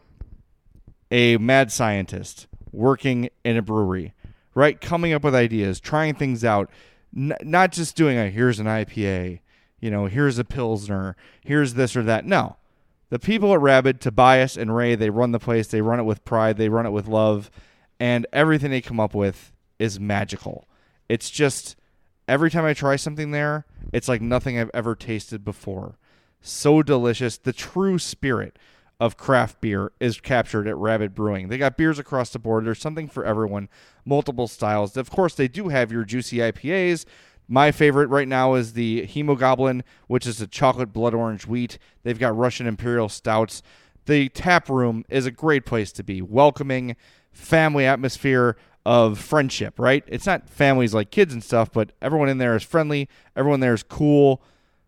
a mad scientist working in a brewery, right? Coming up with ideas, trying things out, N- not just doing a, here's an I P A, you know, here's a Pilsner, here's this or that. No. The people at Rabid, Tobias and Ray, they run the place. They run it with pride. They run it with love. And everything they come up with is magical. It's just, every time I try something there, it's like nothing I've ever tasted before. So delicious. The true spirit of craft beer is captured at Rabid Brewing. They got beers across the board. There's something for everyone. Multiple styles. Of course, they do have your juicy I P As. My favorite right now is the Hemogoblin, which is a chocolate blood orange wheat. They've got Russian Imperial Stouts. The tap room is a great place to be. Welcoming, family atmosphere of friendship, right? It's not families like kids and stuff, but everyone in there is friendly. Everyone there is cool.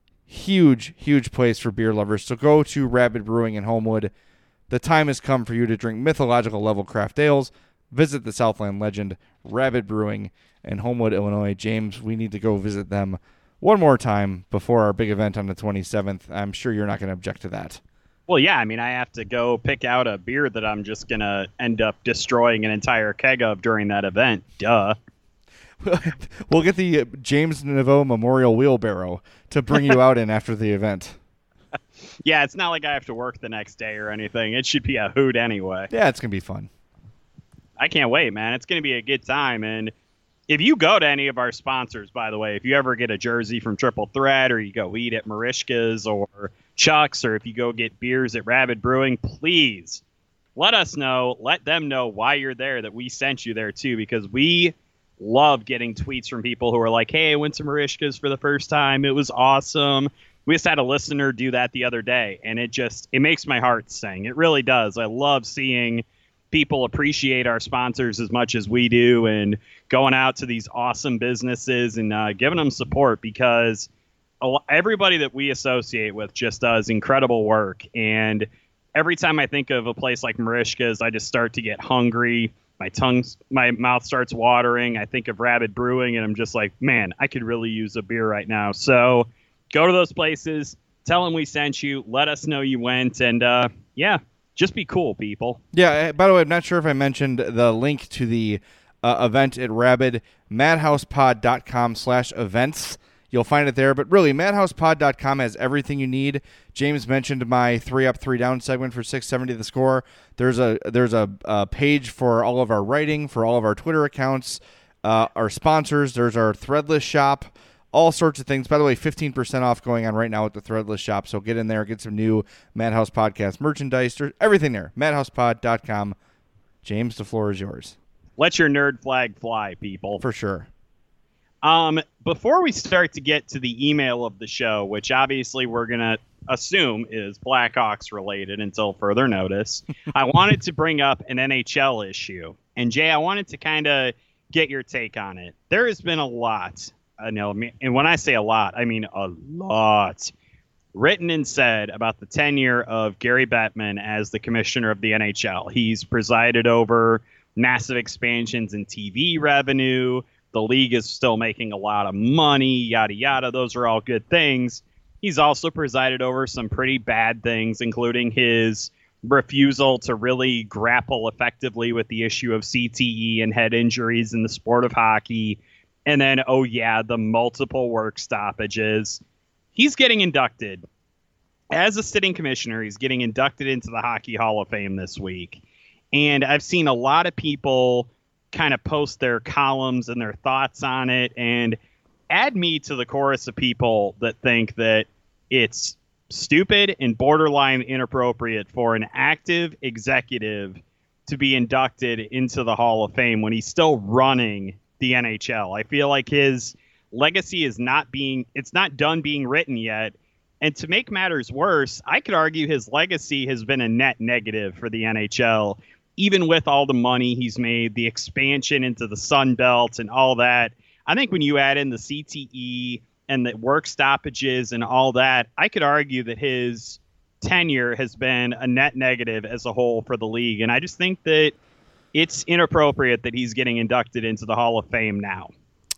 Huge, huge place for beer lovers. So go to Rabid Brewing in Homewood. The time has come for you to drink mythological level craft ales. Visit the Southland legend, Rabid Brewing in Homewood, Illinois. James, we need to go visit them one more time before our big event on the twenty-seventh. I'm sure you're not going to object to that. Well, yeah, I mean, I have to go pick out a beer that I'm just going to end up destroying an entire keg of during that event. Duh. We'll get the James Naveau Memorial Wheelbarrow to bring you out in after the event. Yeah, it's not like I have to work the next day or anything. It should be a hoot anyway. Yeah, it's going to be fun. I can't wait, man. It's going to be a good time. And if you go to any of our sponsors, by the way, if you ever get a jersey from Triple Threat, or you go eat at Marishka's or Chuck's, or if you go get beers at Rabid Brewing, please let us know. Let them know why you're there, that we sent you there too, because we love getting tweets from people who are like, hey, I went to Marishka's for the first time. It was awesome. We just had a listener do that the other day, and it just, it makes my heart sing. It really does. I love seeing people appreciate our sponsors as much as we do, and going out to these awesome businesses and uh, giving them support, because a, everybody that we associate with just does incredible work. And every time I think of a place like Marishka's, I just start to get hungry. My tongue, my mouth starts watering. I think of Rabid Brewing, and I'm just like, man, I could really use a beer right now. So go to those places, tell them we sent you, let us know you went, and uh, yeah, just be cool, people. Yeah, by the way, I'm not sure if I mentioned the link to the uh, event at Rabid, madhousepod.com slash events. You'll find it there. But really, madhousepod dot com has everything you need. James mentioned my three up, three down segment for six seventy The Score. There's a there's a, a page for all of our writing, for all of our Twitter accounts, uh, our sponsors. There's our Threadless shop, all sorts of things. By the way, fifteen percent off going on right now with the Threadless shop. So get in there, get some new Madhouse Podcast merchandise. There's everything there. madhousepod dot com. James, the floor is yours. Let your nerd flag fly, people. For sure. Um, before we start to get to the email of the show, which obviously we're going to assume is Blackhawks related until further notice, I wanted to bring up an N H L issue. And Jay, I wanted to kind of get your take on it. There has been a lot, I know, and when I say a lot, I mean a lot, written and said about the tenure of Gary Bettman as the commissioner of the N H L. He's presided over massive expansions in T V revenue. The league is still making a lot of money, yada, yada. Those are all good things. He's also presided over some pretty bad things, including his refusal to really grapple effectively with the issue of C T E and head injuries in the sport of hockey. And then, oh yeah, the multiple work stoppages. He's getting inducted. As a sitting commissioner, he's getting inducted into the Hockey Hall of Fame this week. And I've seen a lot of people kind of post their columns and their thoughts on it, and add me to the chorus of people that think that it's stupid and borderline inappropriate for an active executive to be inducted into the Hall of Fame when he's still running the N H L. I feel like his legacy is not being, it's not done being written yet. And to make matters worse, I could argue his legacy has been a net negative for the N H L. Even with all the money he's made, the expansion into the Sun Belt and all that, I think when you add in the C T E and the work stoppages and all that, I could argue that his tenure has been a net negative as a whole for the league. And I just think that it's inappropriate that he's getting inducted into the Hall of Fame now.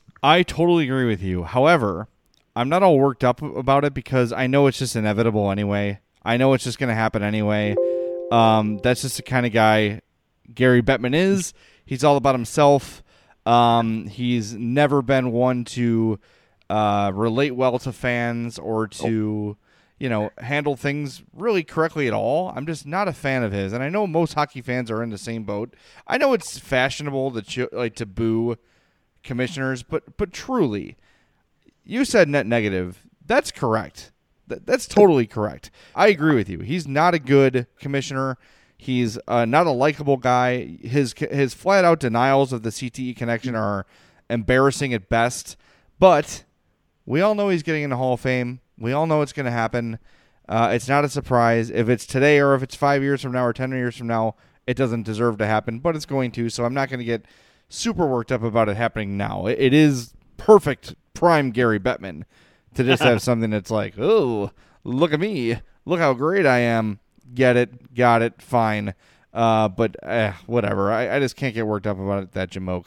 I totally agree with you. However, I'm not all worked up about it because I know it's just inevitable anyway. I know it's just going to happen anyway. Um, that's just the kind of guy Gary Bettman is. He's all about himself. Um, he's never been one to uh, relate well to fans or to, you know, handle things really correctly at all. I'm just not a fan of his. And I know most hockey fans are in the same boat. I know it's fashionable to ch- like to boo commissioners, but but truly, you said net negative. That's correct. Th- that's totally correct. I agree with you. He's not a good commissioner. He's uh, not a likable guy. His his flat out denials of the C T E connection are embarrassing at best. But we all know he's getting in the Hall of Fame. We all know it's going to happen. Uh, it's not a surprise. If it's today or if it's five years from now or ten years from now, it doesn't deserve to happen, but it's going to. So I'm not going to get super worked up about it happening now. It, it is perfect prime Gary Bettman to just have something that's like, oh, look at me. Look how great I am. Get it. Got it. Fine. Uh, but eh, whatever. I, I just can't get worked up about it, that jamoke.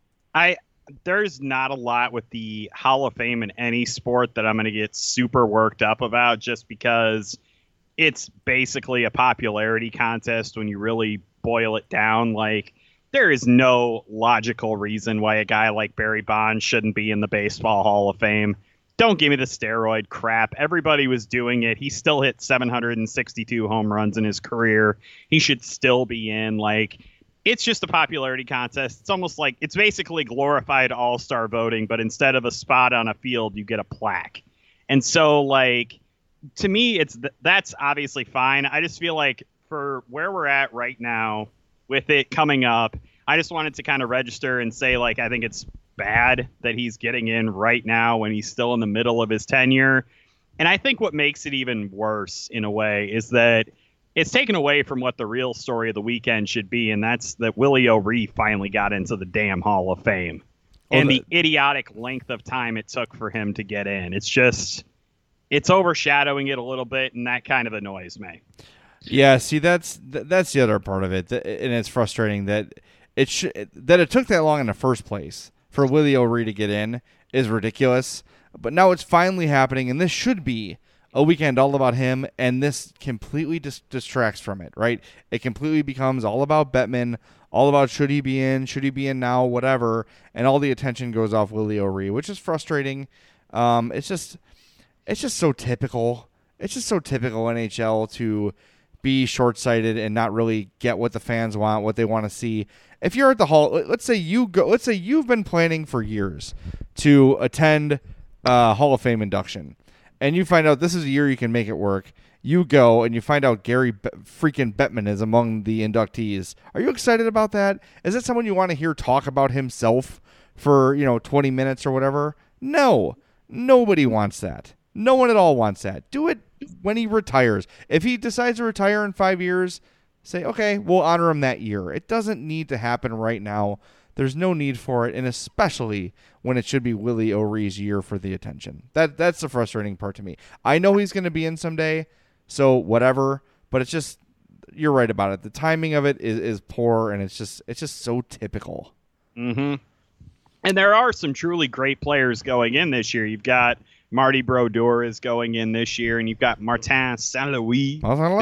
I There's not a lot with the Hall of Fame in any sport that I'm going to get super worked up about just because it's basically a popularity contest when you really boil it down. Like, there is no logical reason why a guy like Barry Bonds shouldn't be in the Baseball Hall of Fame. Don't give me the steroid crap. Everybody was doing it. He still hit seven hundred sixty-two home runs in his career. He should still be in. Like, it's just a popularity contest. It's almost like it's basically glorified all-star voting, but instead of a spot on a field, you get a plaque. And so, like, to me, it's th- that's obviously fine. I just feel like for where we're at right now with it coming up, I just wanted to kind of register and say, like, I think it's bad that he's getting in right now when he's still in the middle of his tenure. And I think what makes it even worse in a way is that it's taken away from what the real story of the weekend should be, and that's that Willie O'Ree finally got into the damn Hall of Fame. Oh, and the, the idiotic length of time it took for him to get in. It's just, it's overshadowing it a little bit, and that kind of annoys me. Yeah, see, that's that's the other part of it, and it's frustrating that it sh- that it took that long in the first place for Willie O'Ree to get in is ridiculous. But now it's finally happening, and this should be a weekend all about him, and this completely dis- distracts from it, right? It completely becomes all about Bettman, all about should he be in, should he be in now, whatever, and all the attention goes off Willie O'Ree, which is frustrating. Um, it's just, it's just so typical. It's just so typical N H L to be short-sighted and not really get what the fans want, what they want to see. If you're at the Hall, let's say you go, let's say you've been planning for years to attend uh, Hall of Fame induction, and you find out this is a year you can make it work. You go and you find out Gary Be- freaking Bettman is among the inductees. Are you excited about that? Is that someone you want to hear talk about himself for, you know, twenty minutes or whatever? No, nobody wants that. No one at all wants that. Do it when he retires. If he decides to retire in five years, say, okay, we'll honor him that year. It doesn't need to happen right now. There's no need for it, and especially when it should be Willie O'Ree's year for the attention. That That's the frustrating part to me. I know he's going to be in someday, so whatever, but it's just, you're right about it. The timing of it is, is poor, and it's just it's just so typical. Mm-hmm. And there are some truly great players going in this year. You've got Marty Brodeur is going in this year, and you've got Martin Saint-Louis.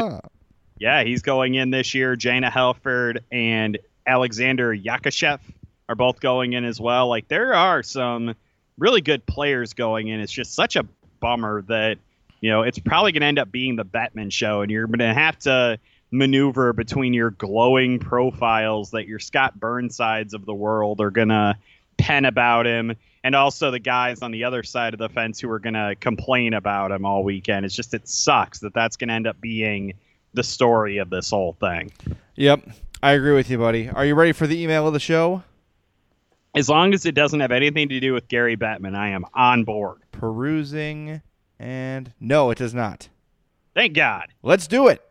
Yeah, he's going in this year. Jana Helford and Alexander Yakushev are both going in as well. Like, there are some really good players going in. It's just such a bummer that, you know, it's probably going to end up being the Bettman show, and you're going to have to maneuver between your glowing profiles that your Scott Burnsides of the world are going to pen about him, and also the guys on the other side of the fence who are going to complain about him all weekend. It's just, it sucks that that's going to end up being the story of this whole thing. Yep, I agree with you, buddy. Are you ready for the email of the show? As long as it doesn't have anything to do with Gary Bettman, I am on board. Perusing, and no, it does not. Thank God. Let's do it.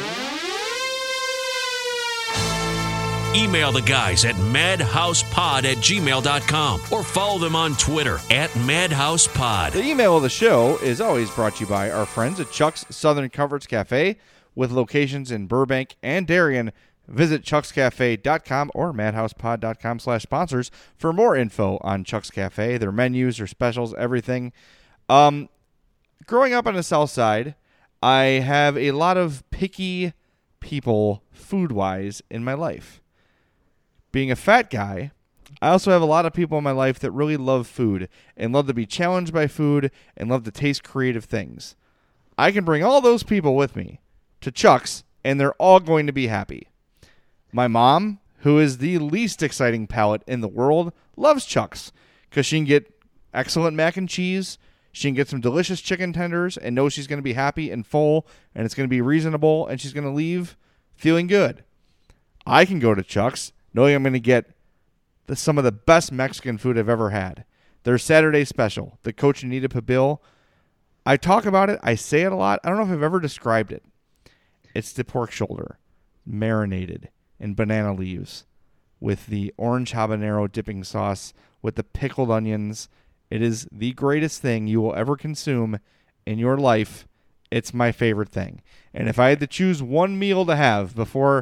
Email the guys at madhousepod at gmail dot com or follow them on Twitter at madhousepod. The email of the show is always brought to you by our friends at Chuck's Southern Comforts Cafe with locations in Burbank and Darien. Visit chucks cafe dot com or madhousepod dot com slash sponsors for more info on Chuck's Cafe, their menus, their specials, everything. Um, growing up on the South Side, I have a lot of picky people food-wise in my life. Being a fat guy, I also have a lot of people in my life that really love food and love to be challenged by food and love to taste creative things. I can bring all those people with me to Chuck's, and they're all going to be happy. My mom, who is the least exciting palate in the world, loves Chuck's because she can get excellent mac and cheese, she can get some delicious chicken tenders, and knows she's going to be happy and full, and it's going to be reasonable, and she's going to leave feeling good. I can go to Chuck's knowing I'm going to get the, some of the best Mexican food I've ever had. Their Saturday special, the Cochinita Pibil. I talk about it. I say it a lot. I don't know if I've ever described it. It's the pork shoulder, marinated in banana leaves with the orange habanero dipping sauce with the pickled onions. It is the greatest thing you will ever consume in your life. It's my favorite thing. And if I had to choose one meal to have before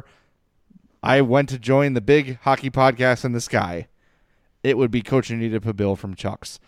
I went to join the big hockey podcast in the sky, it would be Cochinita Pibil from Chuck's.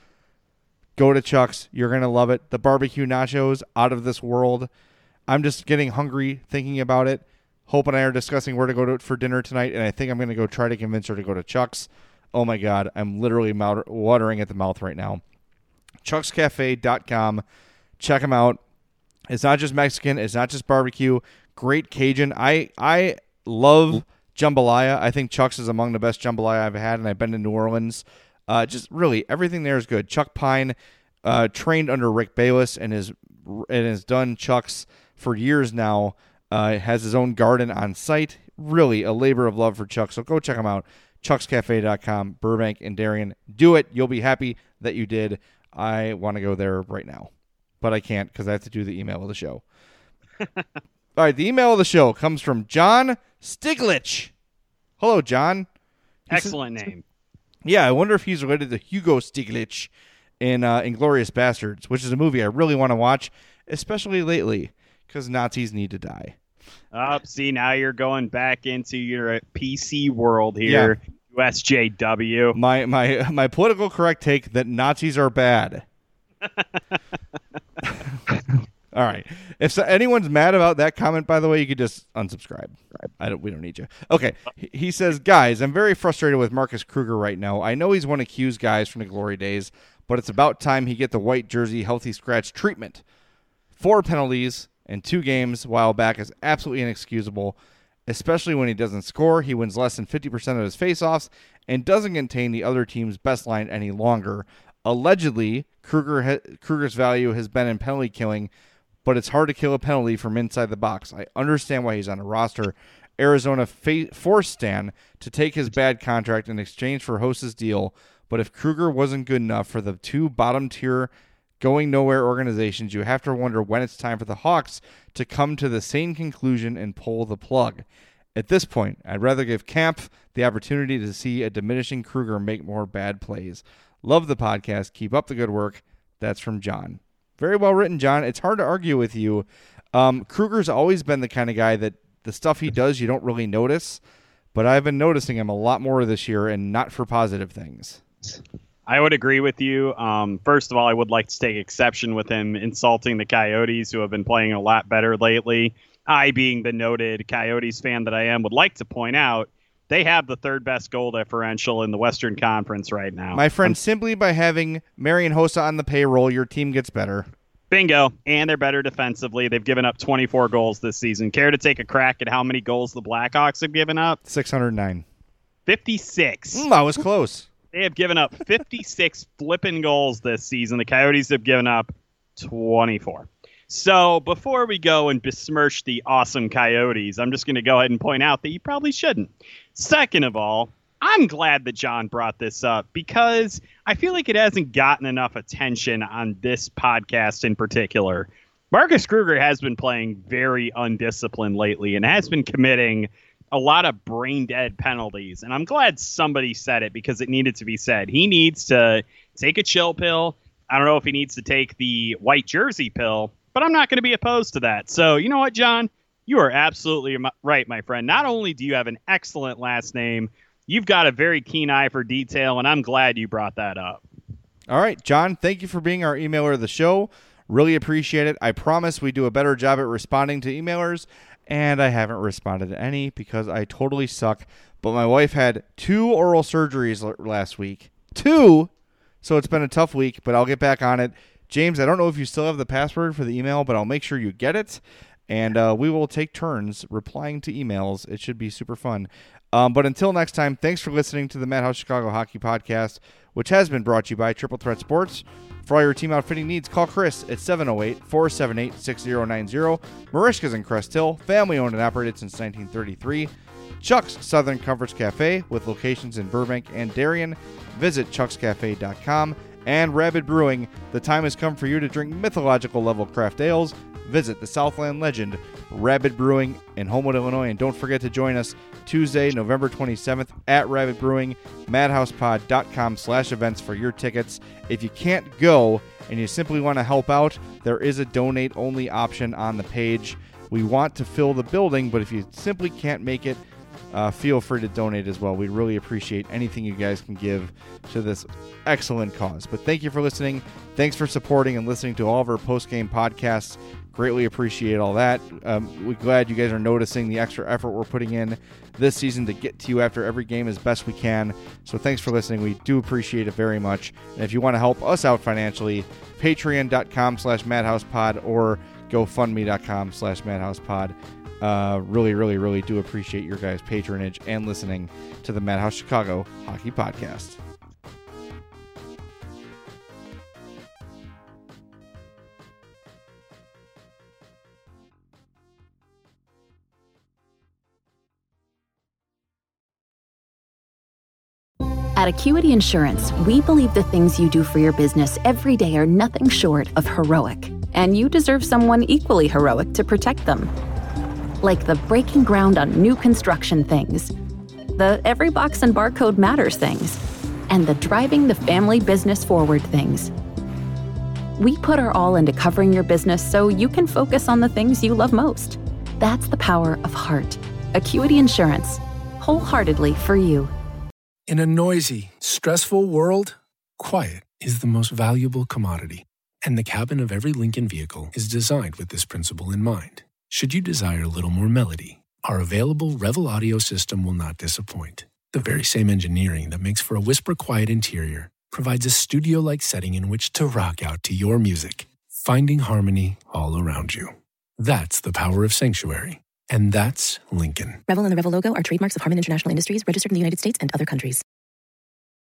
Go to Chuck's. You're going to love it. The barbecue nachos, out of this world. I'm just getting hungry thinking about it. Hope and I are discussing where to go to for dinner tonight, and I think I'm going to go try to convince her to go to Chuck's. Oh, my God. I'm literally mouth- watering at the mouth right now. chucks cafe dot com. Check them out. It's not just Mexican. It's not just barbecue. Great Cajun. I, I love jambalaya. I think Chuck's is among the best jambalaya I've had, and I've been to New Orleans. Uh, just really, everything there is good. Chuck Pine uh, trained under Rick Bayless and, is, and has done Chuck's for years now. Uh, has his own garden on site. Really a labor of love for Chuck. So go check him out. chucks cafe dot com, Burbank and Darien. Do it. You'll be happy that you did. I want to go there right now, but I can't because I have to do the email of the show. All right, the email of the show comes from John Stiglich. Hello, John. He Excellent says, name. Yeah, I wonder if he's related to Hugo Stiglitz in uh, Inglourious Bastards, which is a movie I really want to watch, especially lately, because Nazis need to die. Up, oh, see, now you're going back into your P C world here. Yeah. U S J W. My my my political correct take that Nazis are bad. All right. If so, anyone's mad about that comment, by the way, you could just unsubscribe. I don't. We don't need you. Okay. He says, guys, I'm very frustrated with Marcus Kruger right now. I know he's one of Q's guys from the glory days, but it's about time he get the white jersey healthy scratch treatment. Four penalties in two games a while back is absolutely inexcusable, especially when he doesn't score. He wins less than fifty percent of his faceoffs and doesn't contain the other team's best line any longer. Allegedly, Kruger ha- Kruger's value has been in penalty killing, but it's hard to kill a penalty from inside the box. I understand why he's on a roster. Arizona fa- forced Stan to take his bad contract in exchange for Host's deal, but if Kruger wasn't good enough for the two bottom-tier going nowhere organizations, you have to wonder when it's time for the Hawks to come to the same conclusion and pull the plug. At this point, I'd rather give Camp the opportunity to see a diminishing Kruger make more bad plays. Love the podcast. Keep up the good work. That's from John. Very well written, John. It's hard to argue with you. Um, Kruger's always been the kind of guy that the stuff he does you don't really notice, but I've been noticing him a lot more this year, and not for positive things. I would agree with you. Um, first of all, I would like to take exception with him insulting the Coyotes, who have been playing a lot better lately. I, being the noted Coyotes fan that I am, would like to point out they have the third best goal differential in the Western Conference right now. My friend, um, simply by having Marian Hossa on the payroll, your team gets better. Bingo. And they're better defensively. They've given up twenty-four goals this season. Care to take a crack at how many goals the Blackhawks have given up? six hundred nine. fifty-six. Mm, I was close. They have given up fifty-six flipping goals this season. The Coyotes have given up twenty-four. So before we go and besmirch the awesome Coyotes, I'm just going to go ahead and point out that you probably shouldn't. Second of all, I'm glad that John brought this up because I feel like it hasn't gotten enough attention on this podcast in particular. Marcus Kruger has been playing very undisciplined lately and has been committing a lot of brain-dead penalties. And I'm glad somebody said it because it needed to be said. He needs to take a chill pill. I don't know if he needs to take the white jersey pill, but I'm not going to be opposed to that. So you know what, John? You are absolutely right, my friend. Not only do you have an excellent last name, you've got a very keen eye for detail, and I'm glad you brought that up. All right, John, thank you for being our emailer of the show. Really appreciate it. I promise we do a better job at responding to emailers, and I haven't responded to any because I totally suck. but my wife had two oral surgeries l- last week. Two! So it's been a tough week, but I'll get back on it. James, I don't know if you still have the password for the email, but I'll make sure you get it. And uh, we will take turns replying to emails. It should be super fun. Um, but until next time, thanks for listening to the Madhouse Chicago Hockey Podcast, which has been brought to you by Triple Threat Sports. For all your team outfitting needs, call Chris at seven oh eight, four seven eight, six oh nine oh. Marishka's in Crest Hill, family owned and operated since nineteen thirty-three. Chuck's Southern Comforts Cafe with locations in Burbank and Darien. Visit chucks cafe dot com. And Rabid Brewing, the time has come for you to drink mythological level craft ales. Visit the Southland legend, Rabid Brewing in Homewood, Illinois. And don't forget to join us Tuesday, November twenty-seventh at Rabid Brewing, madhousepod.com slash events for your tickets. If you can't go and you simply want to help out, there is a donate-only option on the page. We want to fill the building, but if you simply can't make it, Uh, feel free to donate as well. We'd really appreciate anything you guys can give to this excellent cause. But thank you for listening. Thanks for supporting and listening to all of our post-game podcasts. Greatly appreciate all that. Um, we're glad you guys are noticing the extra effort we're putting in this season to get to you after every game as best we can. So thanks for listening. We do appreciate it very much. And if you want to help us out financially, patreon.com slash madhousepod or gofundme.com slash madhousepod. Uh, really, really, really do appreciate your guys' patronage and listening to the Madhouse Chicago Hockey Podcast. At Acuity Insurance, we believe the things you do for your business every day are nothing short of heroic, and you deserve someone equally heroic to protect them. Like the breaking ground on new construction things, the every box and barcode matters things, and the driving the family business forward things. We put our all into covering your business so you can focus on the things you love most. That's the power of heart. Acuity Insurance, wholeheartedly for you. In a noisy, stressful world, quiet is the most valuable commodity, and the cabin of every Lincoln vehicle is designed with this principle in mind. Should you desire a little more melody, our available Revel audio system will not disappoint. The very same engineering that makes for a whisper-quiet interior provides a studio-like setting in which to rock out to your music, finding harmony all around you. That's the power of Sanctuary, and that's Lincoln. Revel and the Revel logo are trademarks of Harman International Industries, registered in the United States and other countries.